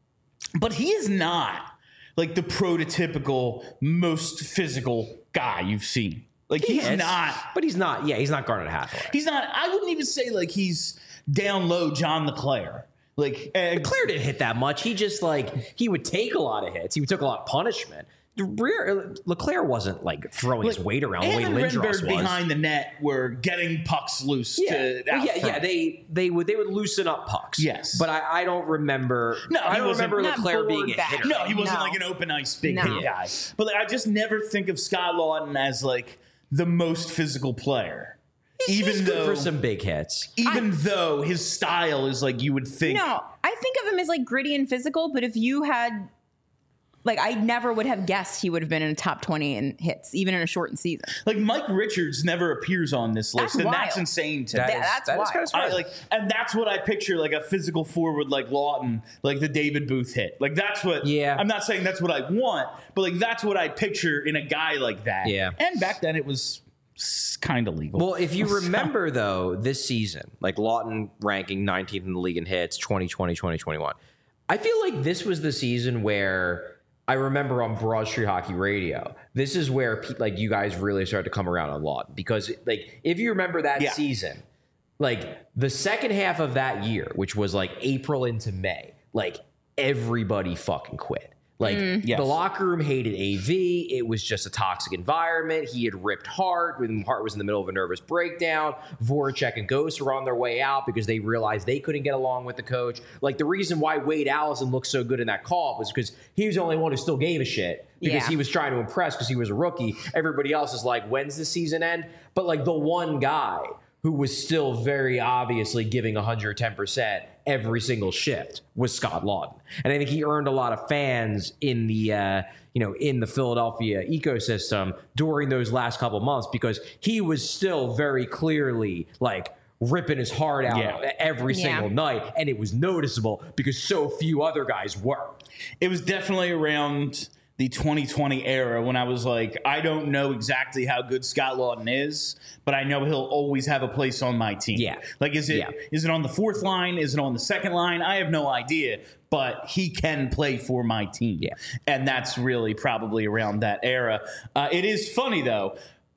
But he is not like the prototypical most physical guy you've seen. Like he's Yes. not But he's not. Yeah, he's not Garnet Hathaway. he's not I wouldn't even say like he's down low John LeClaire. Like uh, Claire didn't hit that much. He just like he would take a lot of hits. He took a lot of punishment. Rear- Leclerc wasn't like throwing his weight around the way and Lindros was. Renberg behind the net were getting pucks loose. yeah, To, Well, out yeah, front. yeah. They they would they would loosen up pucks. Yes. but I, I don't remember. No, I he don't wasn't- remember Not Leclerc being bored a back. hitter. No, he wasn't No. like an open ice big No. hit guy. But like, I just never think of Scott Lawton as like the most physical player. even He's though good for some big hits. even though his style is like you would think. No, I think of him as like gritty and physical, but if you had, like, I never would have guessed he would have been in a top twenty in hits, even in a shortened season. Like Mike Richards never appears on this list, That's and wild. that's insane to That me. Yeah, is- that's that is wild. kinda I, surprising. like, and that's what I picture, like a physical forward like Lawton, like the David Booth hit. Like that's what. Yeah. I'm not saying that's what I want, but like that's what I picture in a guy like that. Yeah. And back then it was kind of legal. Well, if you remember, though, this season, like Lawton ranking nineteenth in the league in hits, twenty twenty, twenty twenty-one, I feel like this was the season where I remember on Broad Street Hockey Radio, this is where pe- like you guys really started to come around on Lawton. Because like if you remember that Yeah. season, like the second half of that year, which was like April into May, like everybody fucking quit. Like Yes. the locker room hated A V. It was just a toxic environment. He had ripped Hart when Hart was in the middle of a nervous breakdown. Voracek and Ghost were on their way out because they realized they couldn't get along with the coach. Like the reason why Wade Allison looked so good in that call was because he was the only one who still gave a shit because Yeah. he was trying to impress because he was a rookie. Everybody else is like, when's the season end? But like the one guy who was still very obviously giving one hundred ten percent every single shift was Scott Lawton. And I think he earned a lot of fans in the uh, you know, in the Philadelphia ecosystem during those last couple months because he was still very clearly like ripping his heart out Yeah. every Yeah. single night, and it was noticeable because so few other guys were. It was definitely around the twenty twenty era when I was like, I don't know exactly how good Scott Lawton is, but I know he'll always have a place on my team. Yeah. Like, is it Yeah. is it on the fourth line? Is it on the second line? I have no idea, but he can play for my team. Yeah. And that's really probably around that era. Uh, it is funny, though.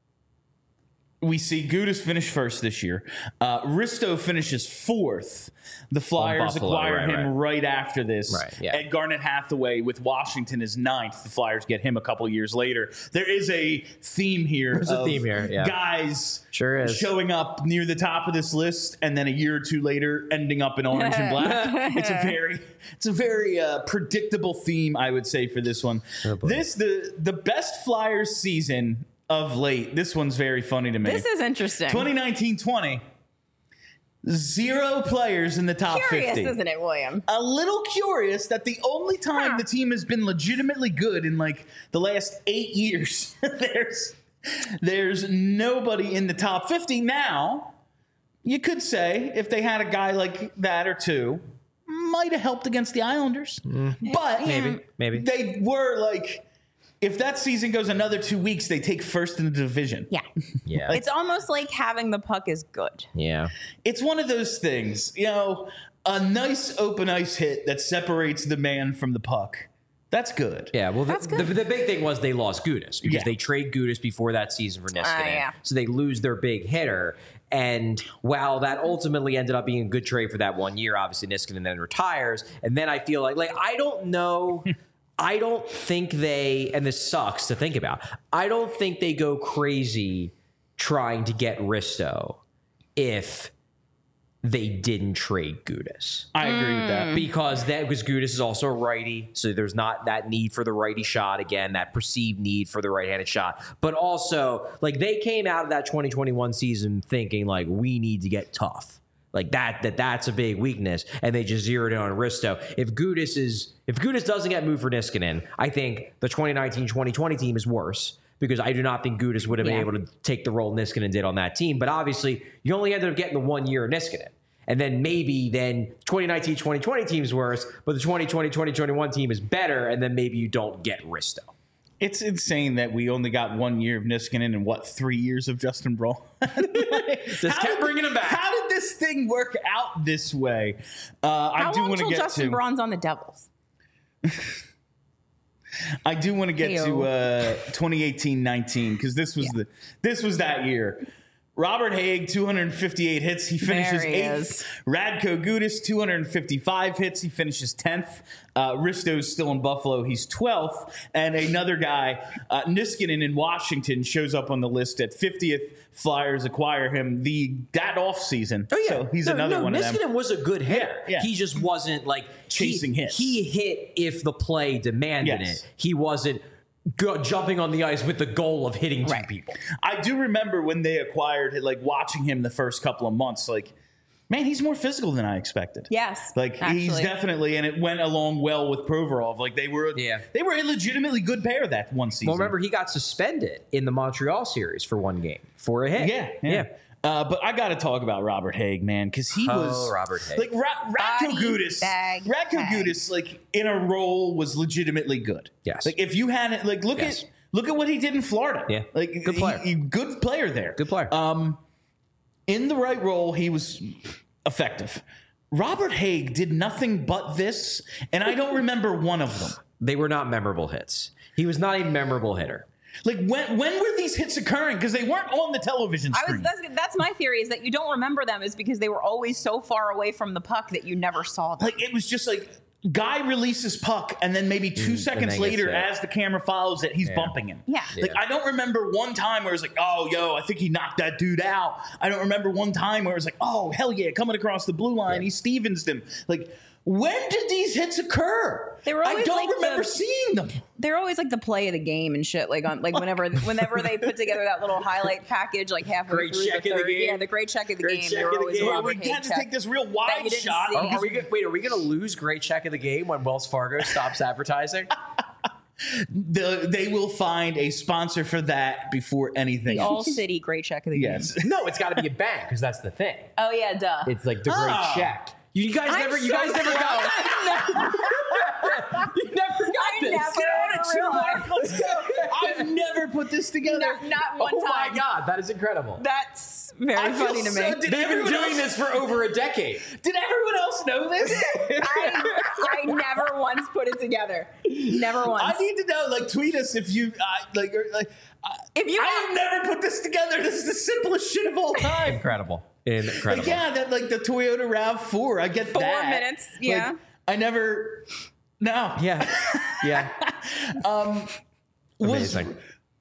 We see Gudas finish first this year. Uh, Risto finishes fourth. The Flyers Buffalo, acquire right, him right. right after this. Right, yeah. And Garnet Hathaway with Washington is ninth. The Flyers get him a couple years later. There is a theme here. There's a of theme here, yeah. Guys Sure is. showing up near the top of this list, and then a year or two later ending up in orange and black. It's a very, it's a very uh, predictable theme, I would say, for this one. Oh, boy. this the the best Flyers season of late. This one's very funny to me. This is interesting. twenty nineteen twenty. Zero players in the top Curious, fifty. isn't it, William? A little curious that the only time Huh. the team has been legitimately good in like the last eight years, there's there's nobody in the top fifty. Now, you could say if they had a guy like that or two, might have helped against the Islanders. But Maybe, maybe. they were like, if that season goes another two weeks, they take first in the division. Yeah. Yeah. It's almost like having the puck is good. yeah. It's one of those things, you know, a nice open ice hit that separates the man from the puck. That's good. Yeah, well, the, That's the, good. the big thing was they lost Gudas because Yeah. they trade Gudas before that season for Niskanen. Ah, yeah. So they lose their big hitter. And while that ultimately ended up being a good trade for that one year, obviously Niskanen then retires. And then I feel like, like I don't know, I don't think they, and this sucks to think about, I don't think they go crazy trying to get Risto if they didn't trade Gudas. I agree with that. Because that because Gudas is also a righty, so there's not that need for the righty shot again, that perceived need for the right-handed shot. But also, like they came out of that twenty twenty-one season thinking like we need to get tough. Like that, that that's a big weakness, and they just zeroed in on Risto. If Gudas is, if Gudas doesn't get moved for Niskanen, I think the twenty nineteen twenty twenty team is worse because I do not think Gudas would have Yeah. been able to take the role Niskanen did on that team. But obviously, you only ended up getting the one year of Niskanen, and then maybe then twenty nineteen twenty twenty team is worse, but the twenty twenty twenty twenty-one team is better, and then maybe you don't get Risto. It's insane that we only got one year of Niskanen and what, three years of Justin Braun? Just kept bringing him back. How did this thing work out this way? Uh, I How do long want to till get Justin to. Braun's on the Devils? I do want to get Heyo. to uh, twenty eighteen nineteen because this was the this was that year. Robert Haig, two hundred fifty-eight hits. He finishes There he eighth. is. Radko Gudas, two hundred fifty-five hits. He finishes tenth. Uh, Risto's still in Buffalo. He's twelfth. And another guy, uh, Niskanen in Washington, shows up on the list at fiftieth. Flyers acquire him the that off season. Oh yeah, So he's no, another no, one of Niskanen them. was a good hitter. Yeah, yeah. He just wasn't like Chasing he, hits. He hit if the play demanded Yes. it. He wasn't go, jumping on the ice with the goal of hitting two Right. people. I do remember when they acquired, like watching him the first couple of months. Like, man, he's more physical than I expected. Yes, Like he's actually. definitely, and it went along well with Provorov. Like they were, Yeah. they were a legitimately good pair that one season. Well, remember he got suspended in the Montreal series for one game for a hit. yeah, yeah. Uh, but I got to talk about Robert Haig, man, because he Oh, was Robert Haig. like Ra- Radko Body Gudas. bag Radko Haig. Gudas, like in a role, was legitimately good. Yes. Like if you had it, like look Yes. at look at what he did in Florida. Yeah. Like Good player. he- he- good player there. Good player. Um, in the right role, he was effective. Robert Haig did nothing but this, and I don't remember one of them. They were not memorable hits. He was not a memorable hitter. Like when when were these hits occurring? Because they weren't on the television I screen. was. That's, that's my theory is that you don't remember them is because they were always so far away from the puck that you never saw them. like it was just like guy releases puck, and then maybe two seconds then later, gets hit. as the camera follows it, he's Yeah. bumping him. Yeah. Like Yeah. I don't remember one time where it's like, oh, yo, I think he knocked that dude out. I don't remember one time where it's like, oh, hell yeah, coming across the blue line, he Stevensed him. Like, when did these hits occur? They were I always don't like remember the- seeing them. They're always like the play of the game and shit. Like on like whenever whenever they put together that little highlight package like halfway Great through check the of the third. game. Yeah, the great check of the Great game. check They were of the always game. a Or Robert we Haig had to check. take this real that wide you didn't shot. see. Are, are we gonna, wait, are we going to lose great check of the game when Wells Fargo stops advertising? The, they will find a sponsor for that before anything All else. city great check of the game. Yes. No, it's got to be a bank because that's the thing. Oh yeah, duh. It's like the great Oh. check. You guys I'm never, you so guys never sorry. got. You never got I this. never Get on it, realized. Let's go. I've never put this together. Not, not one Oh my time. god, that is incredible. That's very I feel funny to so- me. did They've been everyone doing else- this for over a decade. Did everyone else know this? I, I never once put it together. Never once. I need to know. Like, tweet us if you uh, like. Or, like, uh, If you I have never put this together. This is the simplest shit of all time. Incredible. Incredible. Like, yeah, that like the Toyota RAV four. I get Four that. minutes, Like, yeah. I never. No. Yeah. Yeah. Um. Was, Amazing.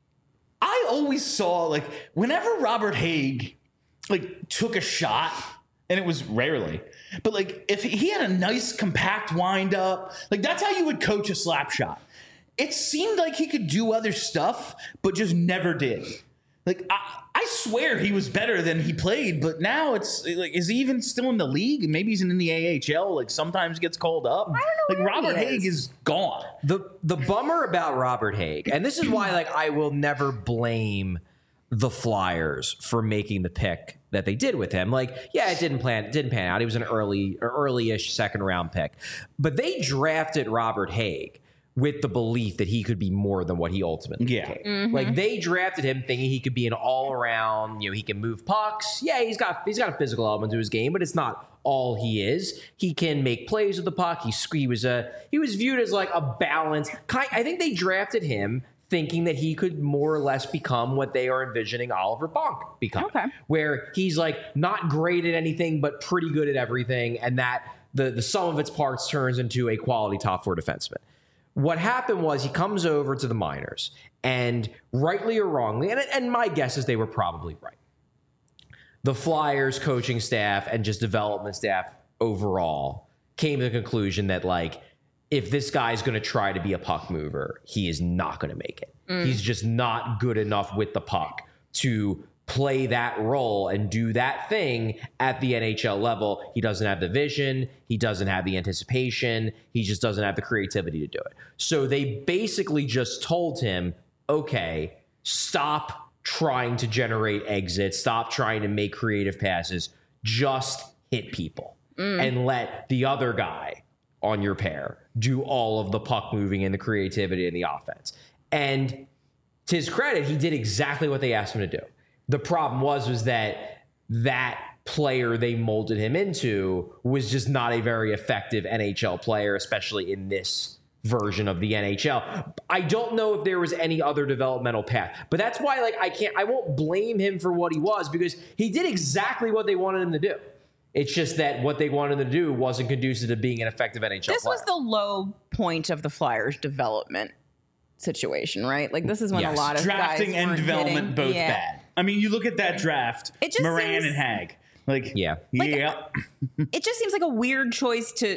I always saw like whenever Robert Haig like took a shot, and it was rarely, but like if he had a nice compact wind up, like that's how you would coach a slap shot. It seemed like he could do other stuff, but just never did. Like I, I swear he was better than he played, but now it's like, is he even still in the league? Maybe he's in the A H L. Like sometimes gets called up. I don't know Like where Robert he Haig is. is gone. The the bummer about Robert Haig, and this is why like I will never blame the Flyers for making the pick that they did with him. Like, yeah, it didn't plan didn't pan out. He was an early or early-ish second round pick. But they drafted Robert Haig with the belief that he could be more than what he ultimately Yeah. became. Like they drafted him thinking he could be an all-around, you know, he can move pucks. Yeah, he's got he's got a physical element to his game, but it's not all he is. He can make plays with the puck. He, he was a he was viewed as like a balance. Kind, I think they drafted him thinking that he could more or less become what they are envisioning Oliver Bonk becoming. Okay. Where he's like not great at anything, but pretty good at everything, and that the the sum of its parts turns into a quality top four defenseman. What happened was he comes over to the minors, and rightly or wrongly, and, and my guess is they were probably right. the Flyers coaching staff and just development staff overall came to the conclusion that, like, if this guy's going to try to be a puck mover, he is not going to make it. Mm. He's just not good enough with the puck to play that role and do that thing at the N H L level. He doesn't have the vision. He doesn't have the anticipation. He just doesn't have the creativity to do it. So they basically just told him, okay, stop trying to generate exits, stop trying to make creative passes, just hit people mm. and let the other guy on your pair do all of the puck moving and the creativity and the offense. And to his credit, he did exactly what they asked him to do. The problem was, was that that player they molded him into was just not a very effective N H L player, especially in this version of the N H L. I don't know if there was any other developmental path, but that's why, like, I can't, I won't blame him for what he was, because he did exactly what they wanted him to do. It's just that what they wanted him to do wasn't conducive to being an effective N H L this player. Was the low point of the Flyers' development situation, right? Like, this is when yes. a lot of drafting guys and development getting, both yeah. bad. I mean, you look at that draft, it just Moran seems, and Hag. Like, yeah, like, yeah. It just seems like a weird choice to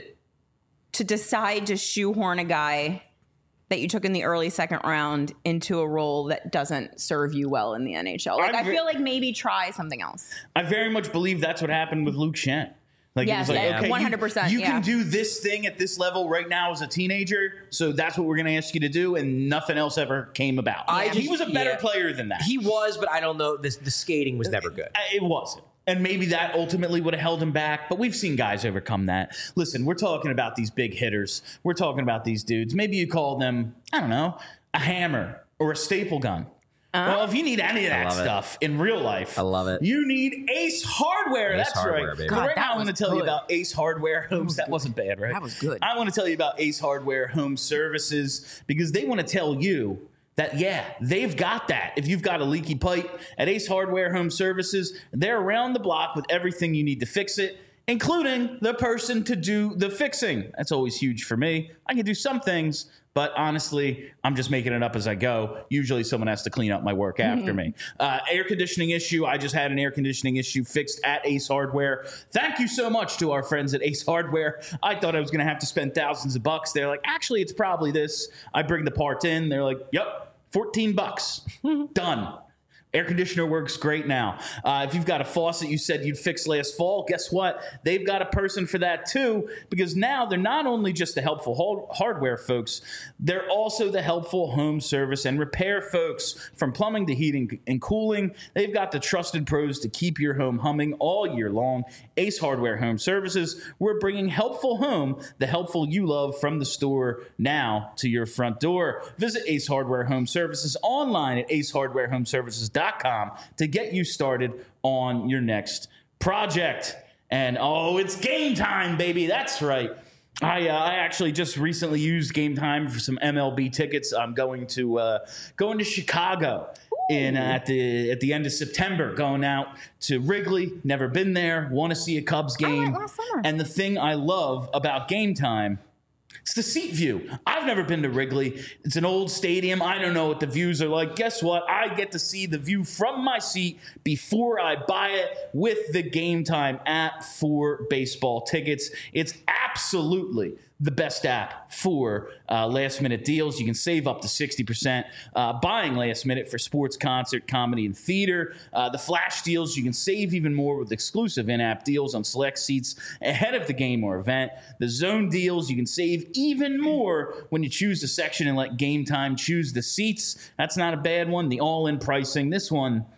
to decide to shoehorn a guy that you took in the early second round into a role that doesn't serve you well in the N H L. Like, I, I feel like maybe try something else. I very much believe that's what happened with Luke Schenn. Like, yes, it was like, yeah, okay, one hundred percent, you, you yeah. can do this thing at this level right now as a teenager, so that's what we're going to ask you to do, and nothing else ever came about. I he just, was a better yeah. player than that. He was, but I don't know. This, the skating was never good. It wasn't. And maybe that ultimately would have held him back, but we've seen guys overcome that. Listen, we're talking about these big hitters. We're talking about these dudes. Maybe you call them, I don't know, a hammer or a staple gun. Uh, well, if you need any of that stuff it. in real life, I love it. You need Ace Hardware. Ace That's Hardware, right. Baby. God, right that now, I want to tell good. you about Ace Hardware Homes. That, that wasn't bad, right? That was good. I want to tell you about Ace Hardware Home Services because they want to tell you that, yeah, they've got that. If you've got a leaky pipe at Ace Hardware Home Services, they're around the block with everything you need to fix it, including the person to do the fixing. That's always huge for me. I can do some things, but honestly, I'm just making it up as I go. Usually someone has to clean up my work after me. Uh, air conditioning issue. I just had an air conditioning issue fixed at Ace Hardware. Thank you so much to our friends at Ace Hardware. I thought I was going to have to spend thousands of bucks. They're like, actually, it's probably this. I bring the part in. They're like, yep, fourteen bucks. Done. Air conditioner works great now. Uh, if you've got a faucet you said you'd fix last fall, guess what? They've got a person for that too, because now they're not only just the helpful hardware folks, they're also the helpful home service and repair folks. From plumbing to heating and cooling, they've got the trusted pros to keep your home humming all year long. Ace Hardware Home Services, we're bringing helpful home, the helpful you love, from the store now to your front door. Visit Ace Hardware Home Services online at ace hardware home services dot com to get you started on your next project. And oh, it's game time, baby. That's right. I, uh, I actually just recently used Game Time for some M L B tickets. I'm going to uh, going to Chicago in uh, at the at the end of September. Going out to Wrigley. Never been there. Want to see a Cubs game. I went last summer. And the thing I love about Game Time, it's the seat view. I've never been to Wrigley. It's an old stadium. I don't know what the views are like. Guess what? I get to see the view from my seat before I buy it with the Game Time app for baseball tickets. It's absolutely the best app for uh, last minute deals. You can save up to sixty percent uh, buying last minute for sports, concert, comedy, and theater. Uh, the flash deals, you can save even more with exclusive in-app deals on select seats ahead of the game or event. The zone deals, you can save even more when you choose the section and let Game Time choose the seats. That's not a bad one. The all-in pricing, this one,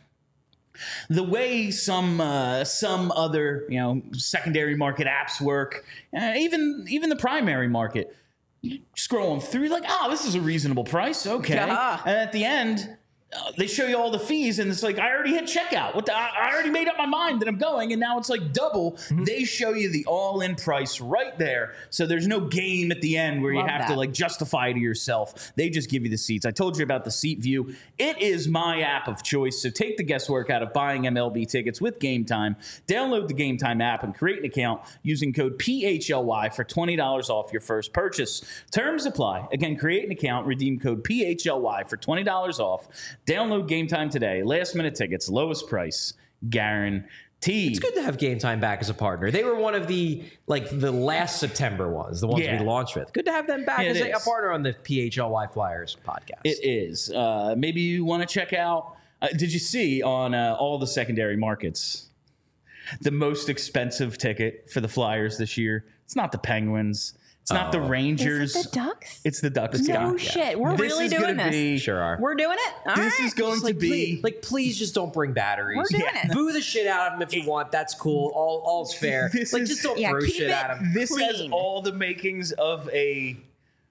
the way some uh, some other you know secondary market apps work, uh, even even the primary market, you scrolling through like, oh, this is a reasonable price, okay. Yeah. And at the end, uh, they show you all the fees, and it's like, I already hit checkout. What the, I, I already made up my mind that I'm going, and now it's like double. Mm-hmm. They show you the all-in price right there, so there's no game at the end where Love you have that. to like justify to yourself. They just give you the seats. I told you about the Seat View. It is my app of choice, so take the guesswork out of buying M L B tickets with Game Time. Download the Game Time app and create an account using code P H L Y for twenty dollars off your first purchase. Terms apply. Again, create an account, redeem code P H L Y for twenty dollars off. Download Game Time today. Last minute tickets, lowest price guaranteed. T. It's good to have Game Time back as a partner. They were one of the like the last September ones, the ones Yeah. we launched with. Good to have them back It as a, a is. partner on the P H L Y Flyers podcast. It is. Uh, maybe you want to check out. Uh, did you see on uh, all the secondary markets the most expensive ticket for the Flyers this year? It's not the Penguins. It's not the Rangers. Is it the Ducks? It's the Ducks. No Yeah. shit. We're This really is doing gonna this. be- Sure are. We're doing it. All This right. is going Just, to like, be. please, like, please just don't bring batteries. We're doing it. Boo the shit out of them if you want. That's cool. All, all's fair. This like, is- just don't Yeah, throw keep shit it- at them. This has Clean. all the makings of a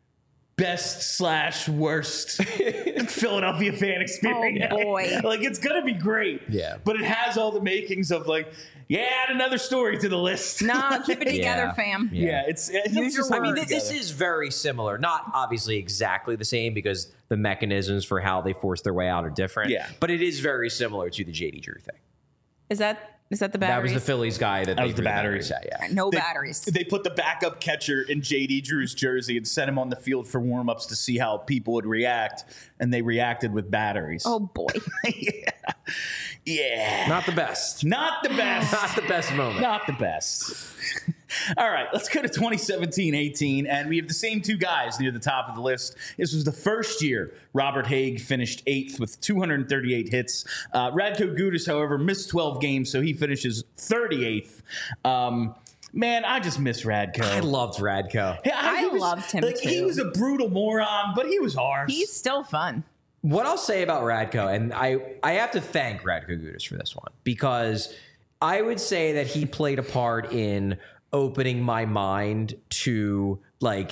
best slash worst Philadelphia fan experience. Oh, boy. Like, it's gonna be great. Yeah. But it has all the makings of like, yeah, add another story to the list. Nah, keep it together, Yeah. fam. Yeah, it's. it's Use your just I mean, words. th- this is very similar. Not obviously exactly the same because the mechanisms for how they force their way out are different. Yeah. But it is very similar to the J D Drew thing. Is that is that the That was batteries? the Phillies guy that, they was the threw batteries. at. Yeah. no They- batteries. They put the backup catcher in J D Drew's jersey and sent him on the field for warmups to see how people would react, and they reacted with batteries. Oh boy. yeah, yeah. Not the best. Not the best. Not the best moment. Not the best. All right, let's go to twenty seventeen eighteen, and we have the same two guys near the top of the list. This was the first year Robert Haig finished eighth with two hundred thirty-eight hits. Uh, Radko Gudas, however, missed twelve games, so he finishes thirty-eighth. Um, man, I just miss Radko. I loved Radko. Yeah, I he was- loved him, Like, he too. was a brutal moron, but he was harsh. He's still fun. What I'll say about Radko, and I, I have to thank Radko Gudas for this one, because I would say that he played a part in opening my mind to like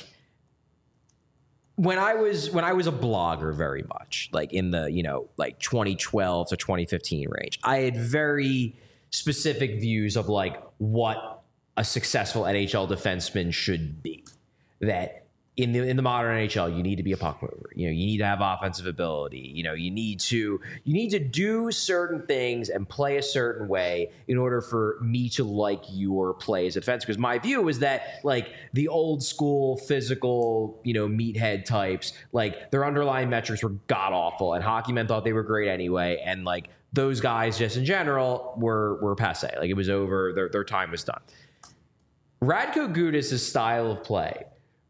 when I was when I was a blogger very much, like in the, you know, like twenty twelve to twenty fifteen range. I had very specific views of like what a successful N H L defenseman should be. That in the in the modern N H L, you need to be a puck mover. You know, you need to have offensive ability. You know, you need to you need to do certain things and play a certain way in order for me to like your play as a defense. Because my view is that like the old school physical, you know, meathead types, like their underlying metrics were god awful, and hockey men thought they were great anyway, and like those guys just in general were were passe. Like it was over. Their their time was done. Radko Gudas' style of play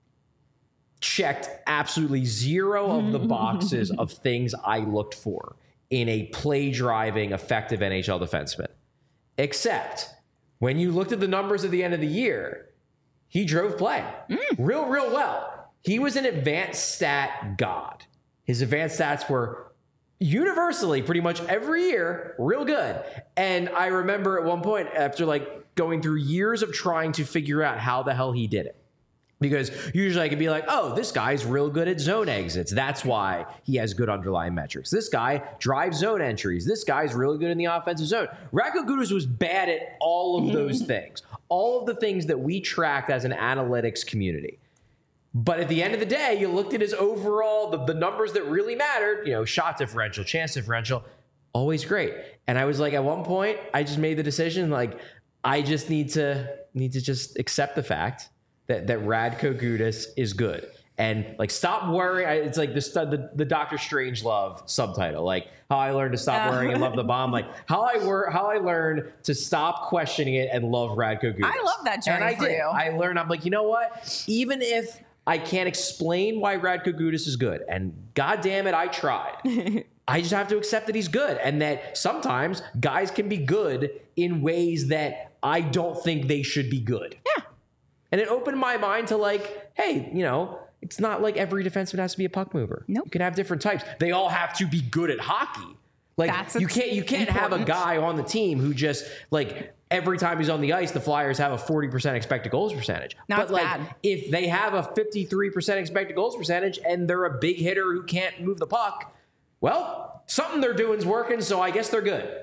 checked absolutely zero of the boxes of things I looked for in a play-driving, effective N H L defenseman. Except when you looked at the numbers at the end of the year, he drove play real, real well. He was an advanced stat god. His advanced stats were universally, pretty much every year, real good. And I remember at one point, after like going through years of trying to figure out how the hell he did it, because usually I could be like, oh, this guy's real good at zone exits. That's why he has good underlying metrics. This guy drives zone entries. This guy's really good in the offensive zone. Radko Gudas was bad at all of those things. All of the things that we tracked as an analytics community. But at the end of the day, you looked at his overall, the, the numbers that really mattered, you know, shot differential, chance differential, always great. And I was like, at one point, I just made the decision, like, I just need to need to just accept the fact that that Radko Gudas is good, and like stop worrying. I, it's like the, the the Doctor Strangelove subtitle, like how I learned to stop worrying and love the bomb. Like how I wor- how I learned to stop questioning it and love Radko Gudas. I love that journey and I for did. you. I learned. I'm like, you know what? Even if I can't explain why Radko Gudas is good, and God damn it, I tried. I just have to accept that he's good, and that sometimes guys can be good in ways that I don't think they should be good. Yeah. And it opened my mind to like, hey, you know, it's not like every defenseman has to be a puck mover. Nope. You can have different types. They all have to be good at hockey. Like That's you can't you can't have a important. guy on the team who just like every time he's on the ice, the Flyers have a forty percent expected goals percentage. No, but it's like bad. if they have a fifty-three percent expected goals percentage and they're a big hitter who can't move the puck, well, something they're doing is working, so I guess they're good.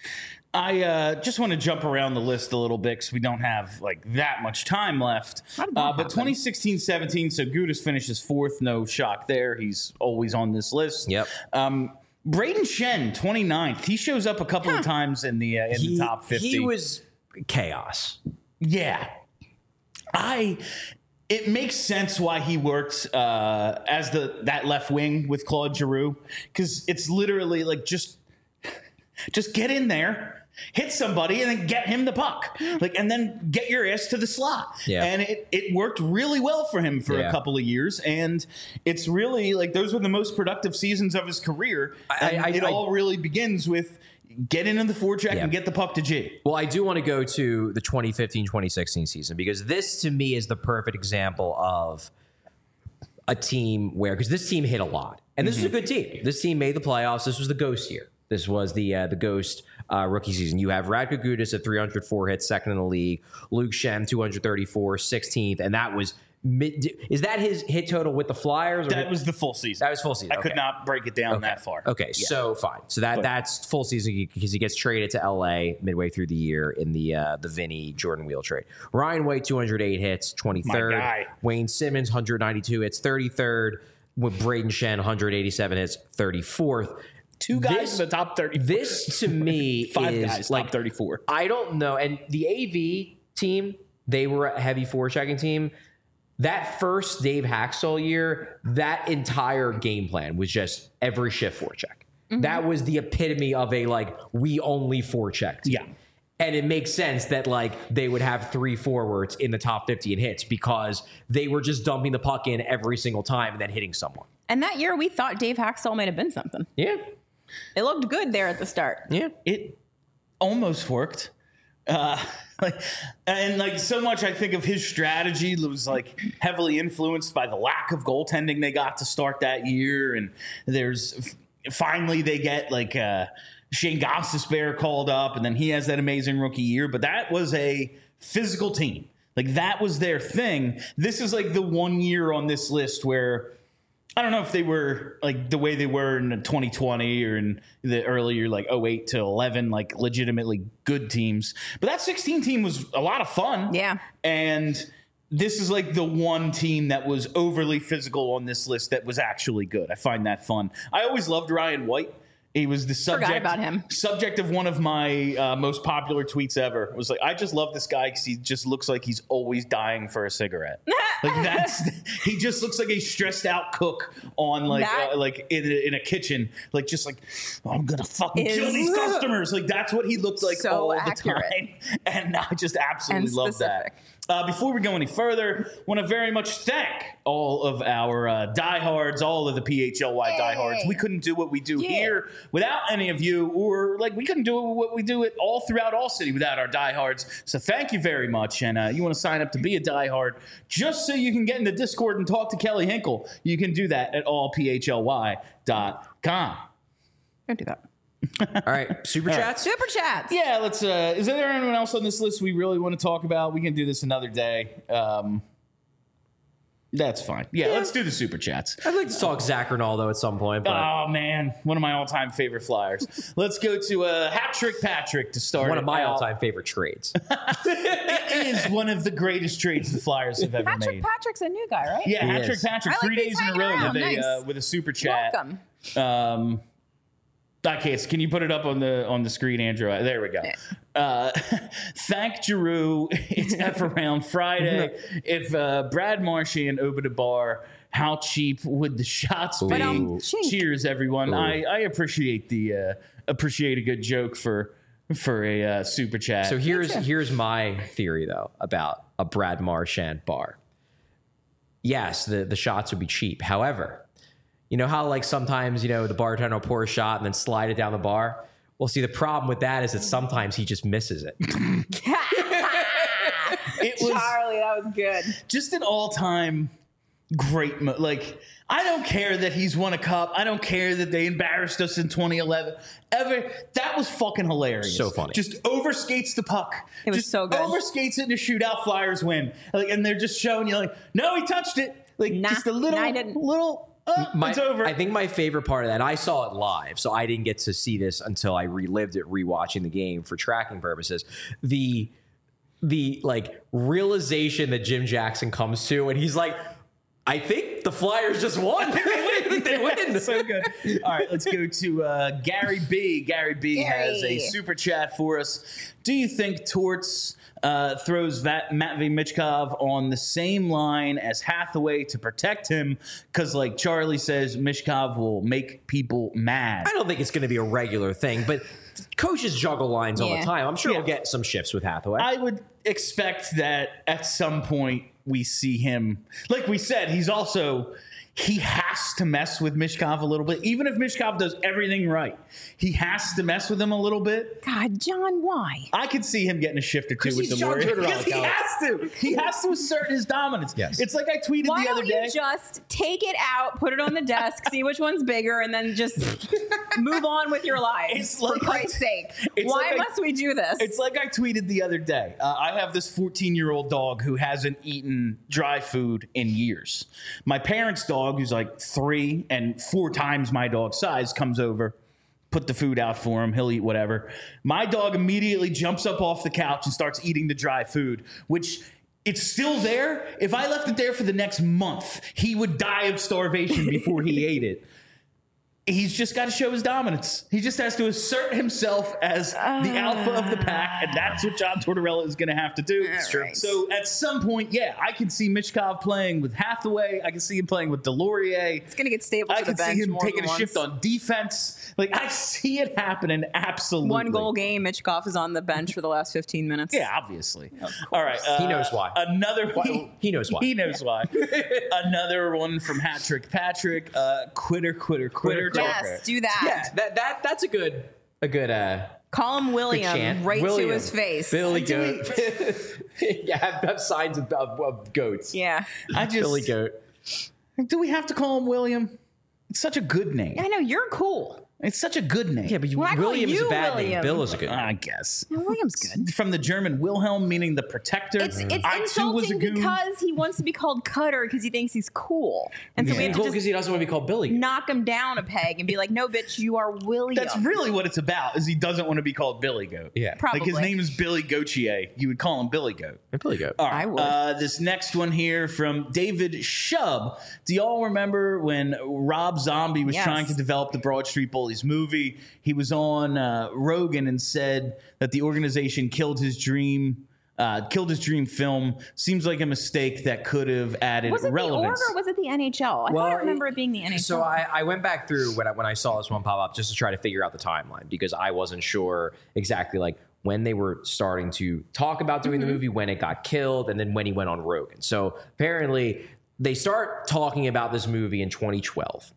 I uh, just want to jump around the list a little bit because we don't have like that much time left. How did that Uh, but happen? twenty sixteen seventeen, so Gudas finishes fourth. No shock there. He's always on this list. Yep. Um, Braden Shen, twenty-ninth. He shows up a couple of times in the uh, in the top fifty. He was chaos. Yeah. I it makes sense why he worked uh, as the that left wing with Claude Giroux, because it's literally like just just get in there hit somebody and then get him the puck, like, and then get your ass to the slot. Yeah. And it, it worked really well for him for Yeah. a couple of years. And it's really like those were the most productive seasons of his career. I- And I- it I- all really begins with get into the forecheck Yeah. and get the puck to G. Well, I do want to go to the twenty fifteen twenty sixteen season because this to me is the perfect example of a team where, because this team hit a lot, and this Mm-hmm. is a good team. This team made the playoffs. This was the Ghost year. This was the uh, the Ghost uh, rookie season. You have Radko Gudas at three hundred four hits, second in the league. Luke Shem, two hundred thirty-four, sixteenth, and that was mid. Is that his hit total with the Flyers? Or That hit- was the full season. that was full season. I could Okay. not break it down that far. Okay, Yeah. so fine. So that But- that's full season because he gets traded to L A midway through the year in the uh, the Vinny Jordan Wheel trade. Ryan White, two hundred eight hits, twenty-third. My guy. Wayne Simmons, one hundred ninety-two hits, thirty-third. With Braden Shen, one hundred eighty-seven hits, thirty-fourth. Two guys This- in the top thirty. This to me Five is guys, like top thirty-four. I don't know. And the A V team, they were a heavy forechecking team. That first Dave Haxtell year, that entire game plan was just every shift forecheck. That was the epitome of a like we only forecheck team. Yeah. And it makes sense that like they would have three forwards in the top fifty in hits because they were just dumping the puck in every single time and then hitting someone. And that year, we thought Dave Haxtell might have been something. Yeah. It looked good there at the start. Yeah. It almost worked. Uh, like, and like so much, I think of his strategy was like heavily influenced by the lack of goaltending they got to start that year. And there's finally they get like uh, Shane Gostisbehere called up, and then he has that amazing rookie year. But that was a physical team. Like that was their thing. This is like the one year on this list where I don't know if they were like the way they were in twenty twenty or in the earlier like oh eight to eleven, like legitimately good teams. But that sixteen team was a lot of fun. Yeah. And this is like the one team that was overly physical on this list that was actually good. I find that fun. I always loved Ryan White. He was the subject about him. subject of one of my uh, most popular tweets ever. It was like, I just love this guy because he just looks like he's always dying for a cigarette. Like that's he just looks like a stressed out cook on like That- uh, like in a, in a kitchen, like just like oh, I'm gonna fucking Is- kill these customers. Like that's what he looked like So all accurate. the time, and I just absolutely And love that. specific. Uh, before we go any further, want to very much thank all of our uh, diehards, all of the P H L Y diehards. We couldn't do what we do Yeah. here without any of you, or like we couldn't do what we do it all throughout All City without our diehards. So thank you very much. And uh, you want to sign up to be a diehard just so you can get in the Discord and talk to Kelly Hinkle. You can do that at all p h l y dot com. Don't do that. All right. Super chats. Super chats. Yeah, let's. Uh, is there anyone else on this list we really want to talk about? We can do this another day. Um, that's fine. Yeah, let's do the super chats. I'd like to talk Zach Ronaldo at some point, but Oh man, one of my all-time favorite Flyers. Let's go to uh, Hat Trick Patrick to start. one of it my out. all-time favorite trades. It is one of the greatest trades the Flyers have ever Patrick made. Patrick's a new guy, right? Yeah, He Hat Trick is. Patrick, I like three he's days in a hanging row around. with a Nice. uh, with a super chat. Welcome. Um, okay, so can you put it up on the on the screen, Andrew? There we go. Uh, thank Giroux. It's F around Friday. If uh, Brad Marchand opened a bar, how cheap would the shots be? But, um, chink. Cheers, everyone. I, I appreciate the uh, appreciate a good joke for for a uh, super chat. So here's here's my theory though about a Brad Marchand bar. Yes, the, the shots would be cheap. However, you know how like sometimes, you know, the bartender will pour a shot and then slide it down the bar? Well, see, the problem with that is that sometimes he just misses it. it was Charlie, that was good. just an all time great. Mo- like I don't care that he's won a cup. I don't care that they embarrassed us in twenty eleven. Ever that was fucking hilarious. So funny. Just overskates the puck. It was just so good. Overskates it in a shootout. Flyers win. Like, and they're just showing you like, no, he touched it. Like Nah, just a little, nah, I didn't. little. Uh, My, it's over. I think my favorite part of that, I saw it live, so I didn't get to see this until I relived it rewatching the game for tracking purposes. The the like realization that Jim Jackson comes to, and he's like, I think the Flyers just won. they win. They win. So good. All right, let's go to uh, Gary B. Gary B. Gary. has a super chat for us. Do you think Torts uh, throws Vat- Matvey Michkov on the same line as Hathaway to protect him? Because, like Charlie says, Michkov will make people mad. I don't think it's going to be a regular thing, but coaches juggle lines all Yeah. the time. I'm sure Yeah. we'll get some shifts with Hathaway. I would expect that at some point we see him. Like we said, he's also he has to mess with Mishkov a little bit. Even if Mishkov does everything right, he has to mess with him a little bit. God, John, why? I could see him getting a shift or two with he's the John Warriors. Tortorella, Because he Kelly. has to. He has to assert his dominance. Yes. It's like I tweeted Why the other don't day. you just take it out, put it on the desk, see which one's bigger, and then just move on with your lives? It's for like- Christ's sake. it's Why like I- must we do this? It's like I tweeted the other day. Uh, I have this fourteen-year-old dog who hasn't eaten dry food in years. My parents' dog, who's like three and four times my dog's size, comes over, put the food out for him. He'll eat whatever. My dog immediately jumps up off the couch and starts eating the dry food, which it's still there. If I left it there for the next month, he would die of starvation before he ate it. He's just got to show his dominance. He just has to assert himself as the alpha of the pack, and that's what John Tortorella is going to have to do. That's true. So at some point, yeah, I can see Mishkov playing with Hathaway. I can see him playing with Delorier. it's going to get stable I to the can see bench him more taking than a shift once. on defense. Like, I see it happening absolutely. One goal game, Mitchkov is on the bench for the last fifteen minutes. Yeah, obviously. All right. Uh, He knows why. Another Why- he knows why. He knows why. Another one from Hat Trick Patrick. Uh, quitter, quitter, quitter. Yes, do that. yeah, that that that's a good a good uh Call him good William chant. right William. to his face. Billy Do Goat. yeah, have, have signs of, of, of goats. Yeah. I just Billy Goat. Do we have to call him William? It's such a good name. I know, you're cool. It's such a good name. Yeah, but you, Well, I call William is a you bad William. name. Bill is a good name. I guess. No, William's good. From the German Wilhelm, meaning the protector. It's it's I too was a insulting goon. because he wants to be called Cutter because he thinks he's cool. And so we Yeah. have Cool to because just he doesn't want to be called Billy. knock him down a peg and be like, no, bitch, you are William. That's really what it's about. Is he doesn't want to be called Billy Goat. Yeah. Probably. Like his name is Billy Gautier. You would call him Billy Goat. Billy Goat. All right. I would. Uh, this next one here from David Shub. Do y'all remember when Rob Zombie was Yes. trying to develop the Broad Street Bullies movie? He was on uh, Rogan and said that the organization killed his dream. Uh, killed his dream film. Seems like a mistake that could have added was it relevance. the org or was it the N H L? I Well, thought I remember it being the N H L. So I, I went back through when I, when I saw this one pop up just to try to figure out the timeline because I wasn't sure exactly like when they were starting to talk about doing Mm-hmm. the movie, when it got killed, and then when he went on Rogan. So apparently they start talking about this movie in twenty twelve.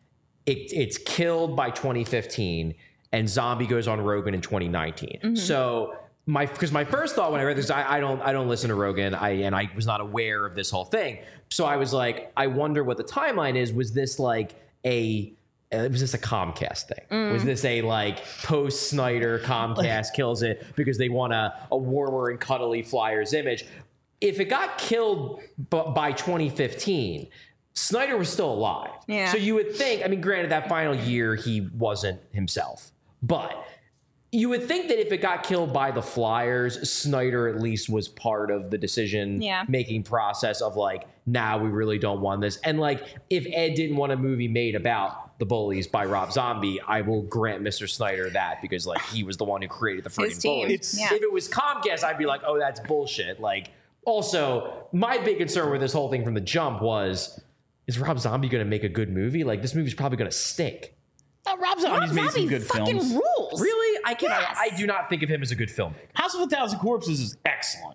It, it's killed by twenty fifteen, and Zombie goes on Rogan in twenty nineteen. Mm-hmm. So my because my first thought when I read this, I, I don't I don't listen to Rogan, I and I was not aware of this whole thing. So I was like, I wonder what the timeline is. Was this like a uh, was this a Comcast thing? Mm. Was this a like post Snyder Comcast kills it because they want a, a warmer and cuddly Flyers image? If it got killed b- by twenty fifteen, Snyder was still alive. Yeah. So you would think, I mean, granted, that final year he wasn't himself, but you would think that if it got killed by the Flyers, Snyder at least was part of the decision Yeah. making process of like, now nah, we really don't want this. And like, if Ed didn't want a movie made about the Bullies by Rob Zombie, I will grant Mister Snyder that because like he was the one who created the His freaking team. Bullies. It's- Yeah. If it was Comcast, I'd be like, oh, that's bullshit. Like, also, my big concern with this whole thing from the jump was, is Rob Zombie going to make a good movie? Like, this movie's probably going to stink. Uh, Rob Zombie's Rob made Zombie some good fucking films. rules. Really? I can. Yes. I, I do not think of him as a good filmmaker. House of a Thousand Corpses is excellent.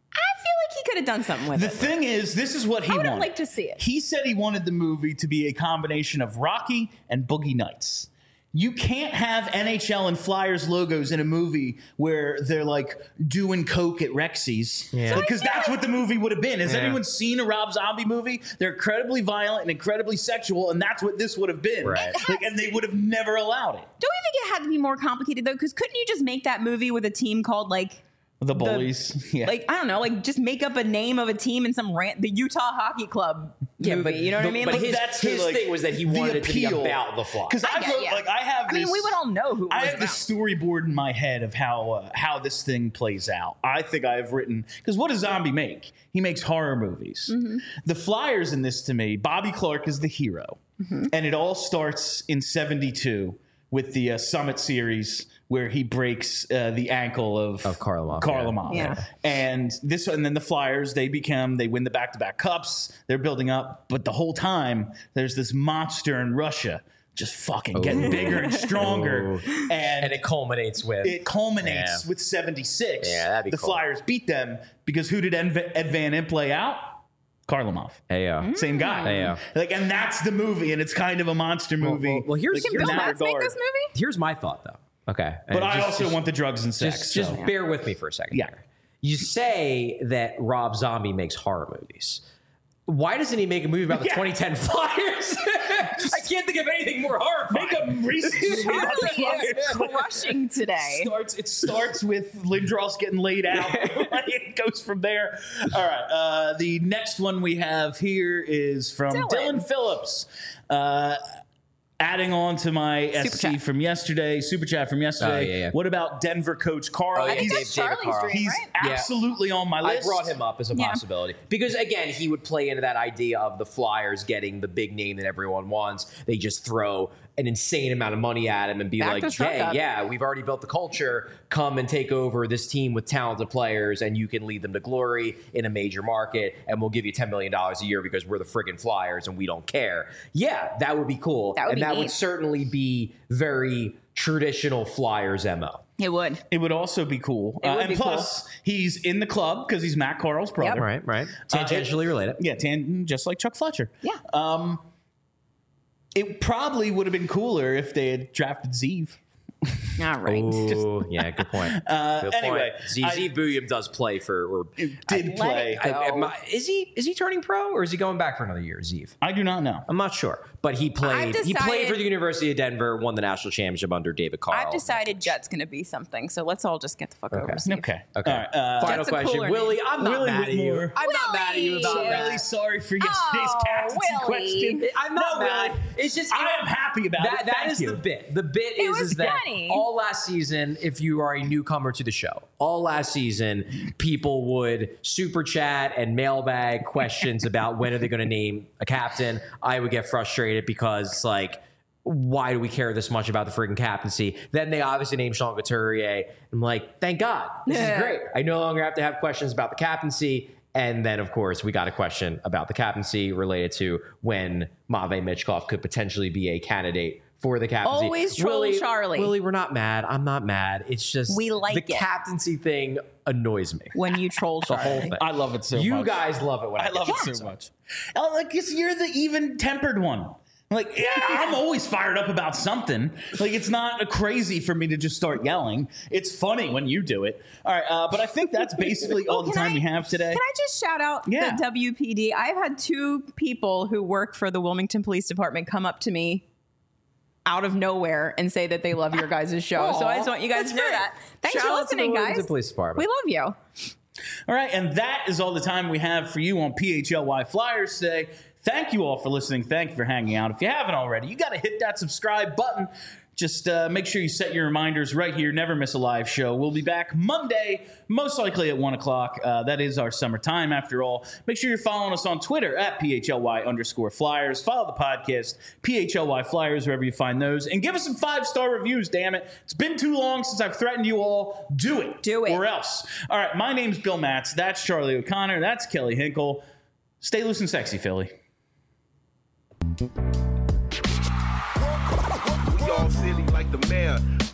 I feel like he could have done something with The it. thing is, this is what he I would have wanted. liked to see it. He said he wanted the movie to be a combination of Rocky and Boogie Nights. You can't have N H L and Flyers logos in a movie where they're like doing coke at Rexy's. Yeah. So I Because feel that's like- what the movie would have been. Has Yeah. anyone seen a Rob Zombie movie? They're incredibly violent and incredibly sexual, and that's what this would have been. Right. Like, and they would have never allowed it. Don't you think it had to be more complicated though? Because couldn't you just make that movie with a team called like, The Bullies. yeah. like I don't know, like just make up a name of a team in some rant, the Utah Hockey Club movie. you know what the- I mean? But Like, his, that's his the, like, thing was that he the wanted it to be appeal. about the Flyers. Because I, I get- wrote, yeah. like, I have I this. mean, we would all know who. It I was have this about. storyboard in my head of how uh, how this thing plays out. I think I have written because what does Zombie make? He makes horror movies. Mm-hmm. The Flyers in this, to me, Bobby Clark is the hero, Mm-hmm. and it all starts in seventy-two with the uh, Summit series where he breaks uh, the ankle of Of Kharlamov, Kharlamov. yeah. And this, and then the Flyers, they become, they win the back-to-back cups. They're building up, but the whole time there's this monster in Russia just fucking getting bigger and stronger. And, And it culminates with it culminates Yeah. with seventy-six. Yeah, that'd be the cool. Flyers beat them because who did Ed, Ed Van Impe play out? Kharlamov. Hey, uh, Same guy. Hey, uh. Like, and that's the movie, and it's kind of a monster movie. well, well, here's- like, Can in Bill that Matz make regard. this movie? here's my thought, though. Okay. But And I just- also just- want the drugs and sex. Just, just so. bear with me for a second. Yeah. here. You say that Rob Zombie makes horror movies. Why doesn't he make a movie about the Yeah. twenty ten Flyers? I can't think of anything more horrifying. Make a recent movie about the Charlie is Flyers. crushing today. starts it starts with Lindros getting laid out. It goes from there. All right. Uh, the next one we have here is from Dylan. Dylan Phillips. Uh, adding on to my S C chat. from yesterday, super chat from yesterday. Oh, yeah, yeah. What about Denver coach Carl? Oh, yeah, I think Dave- that's David Charlie's Carl. dream, He's right? Yeah. absolutely on my I list. brought him up as a Yeah. possibility because, again, he would play into that idea of the Flyers getting the big name that everyone wants. They just throw an insane amount of money at him and be Back like, to Shrug hey, Up. yeah, we've already built the culture. Come and take over this team with talented players, and you can lead them to glory in a major market, and we'll give you ten million dollars a year because we're the friggin' Flyers and we don't care. Yeah, that would be cool. That would and be that would neat. certainly be very traditional Flyers M O. It would. It would also be cool. It Uh, would and be plus, he's in the club because he's Matt Carl's brother. Right, right. Uh, Tangentially related. Yeah, tan- just like Chuck Fletcher. Yeah. Um, it probably would have been cooler if they had drafted Zeev. All right. Ooh, yeah, good point. Uh, good anyway, point. Z I- Z Booyam does play for. Or, It did play. Athletic. I, am I- is he is he turning pro or is he going back for another year? Zeev, I do not know. I'm not sure, but he played. I've he played decided- for the University of Denver, won the national championship under David Carl. I've decided Jet's going to be something, so let's all just get the fuck Okay. over. Steve. Okay. Okay. All right. Uh, Final That's a question, cooler Willie. name. I'm not Willie mad at you. Whitmore. I'm not mad at you about Willie. that. really sorry for yesterday's Oh, captaincy Willie. question. I'm not No, mad. Willie. It's just I am happy about that. it. That Thank is you. the bit. The bit It is, was is that funny. all last season, if you are a newcomer to the show, all last season, people would super chat and mailbag questions about when are they going to name a captain. I would get frustrated because it's like, why do we care this much about the freaking captaincy? Then they obviously named Sean Couturier. I'm like, thank God. This Yeah. is great. I no longer have to have questions about the captaincy. And then, of course, we got a question about the captaincy related to when Matvei Michkov could potentially be a candidate for the captaincy. Always troll Willie, Charlie. Willie, we're not mad. I'm not mad. It's just We like the it. captaincy thing annoys me. When you troll The Charlie. whole thing. I love it so you much. guys love it when I, I love get it to so much. Oh, like, it's, you're the even-tempered one. Like, yeah, I'm always fired up about something. Like, it's not crazy for me to just start yelling. It's funny when you do it. All right, uh, but I think that's basically all the Can time I- we have today. Can I just shout out Yeah. the W P D? I've had two people who work for the Wilmington Police Department come up to me out of nowhere and say that they love your guys' show. so I just want you guys That's to know great. that. Thanks Shout for out to listening, the guys. Wilmington Police Department. We love you. All right, and that is all the time we have for you on P H L Y Flyers today. Thank you all for listening. Thank you for hanging out. If you haven't already, you got to hit that subscribe button. Just uh, make sure you set your reminders right here. Never miss a live show. We'll be back Monday, most likely at one o'clock. Uh, that is our summertime, after all. Make sure you're following us on Twitter at P H L Y underscore Flyers. Follow the podcast, P H L Y Flyers, wherever you find those. And give us some five-star reviews, damn it. It's been too long since I've threatened you all. Do it. Do it. Or else. All right, my name's Bill Matz. That's Charlie O'Connor. That's Kelly Hinkle. Stay loose and sexy, Philly. We all silly like the mayor.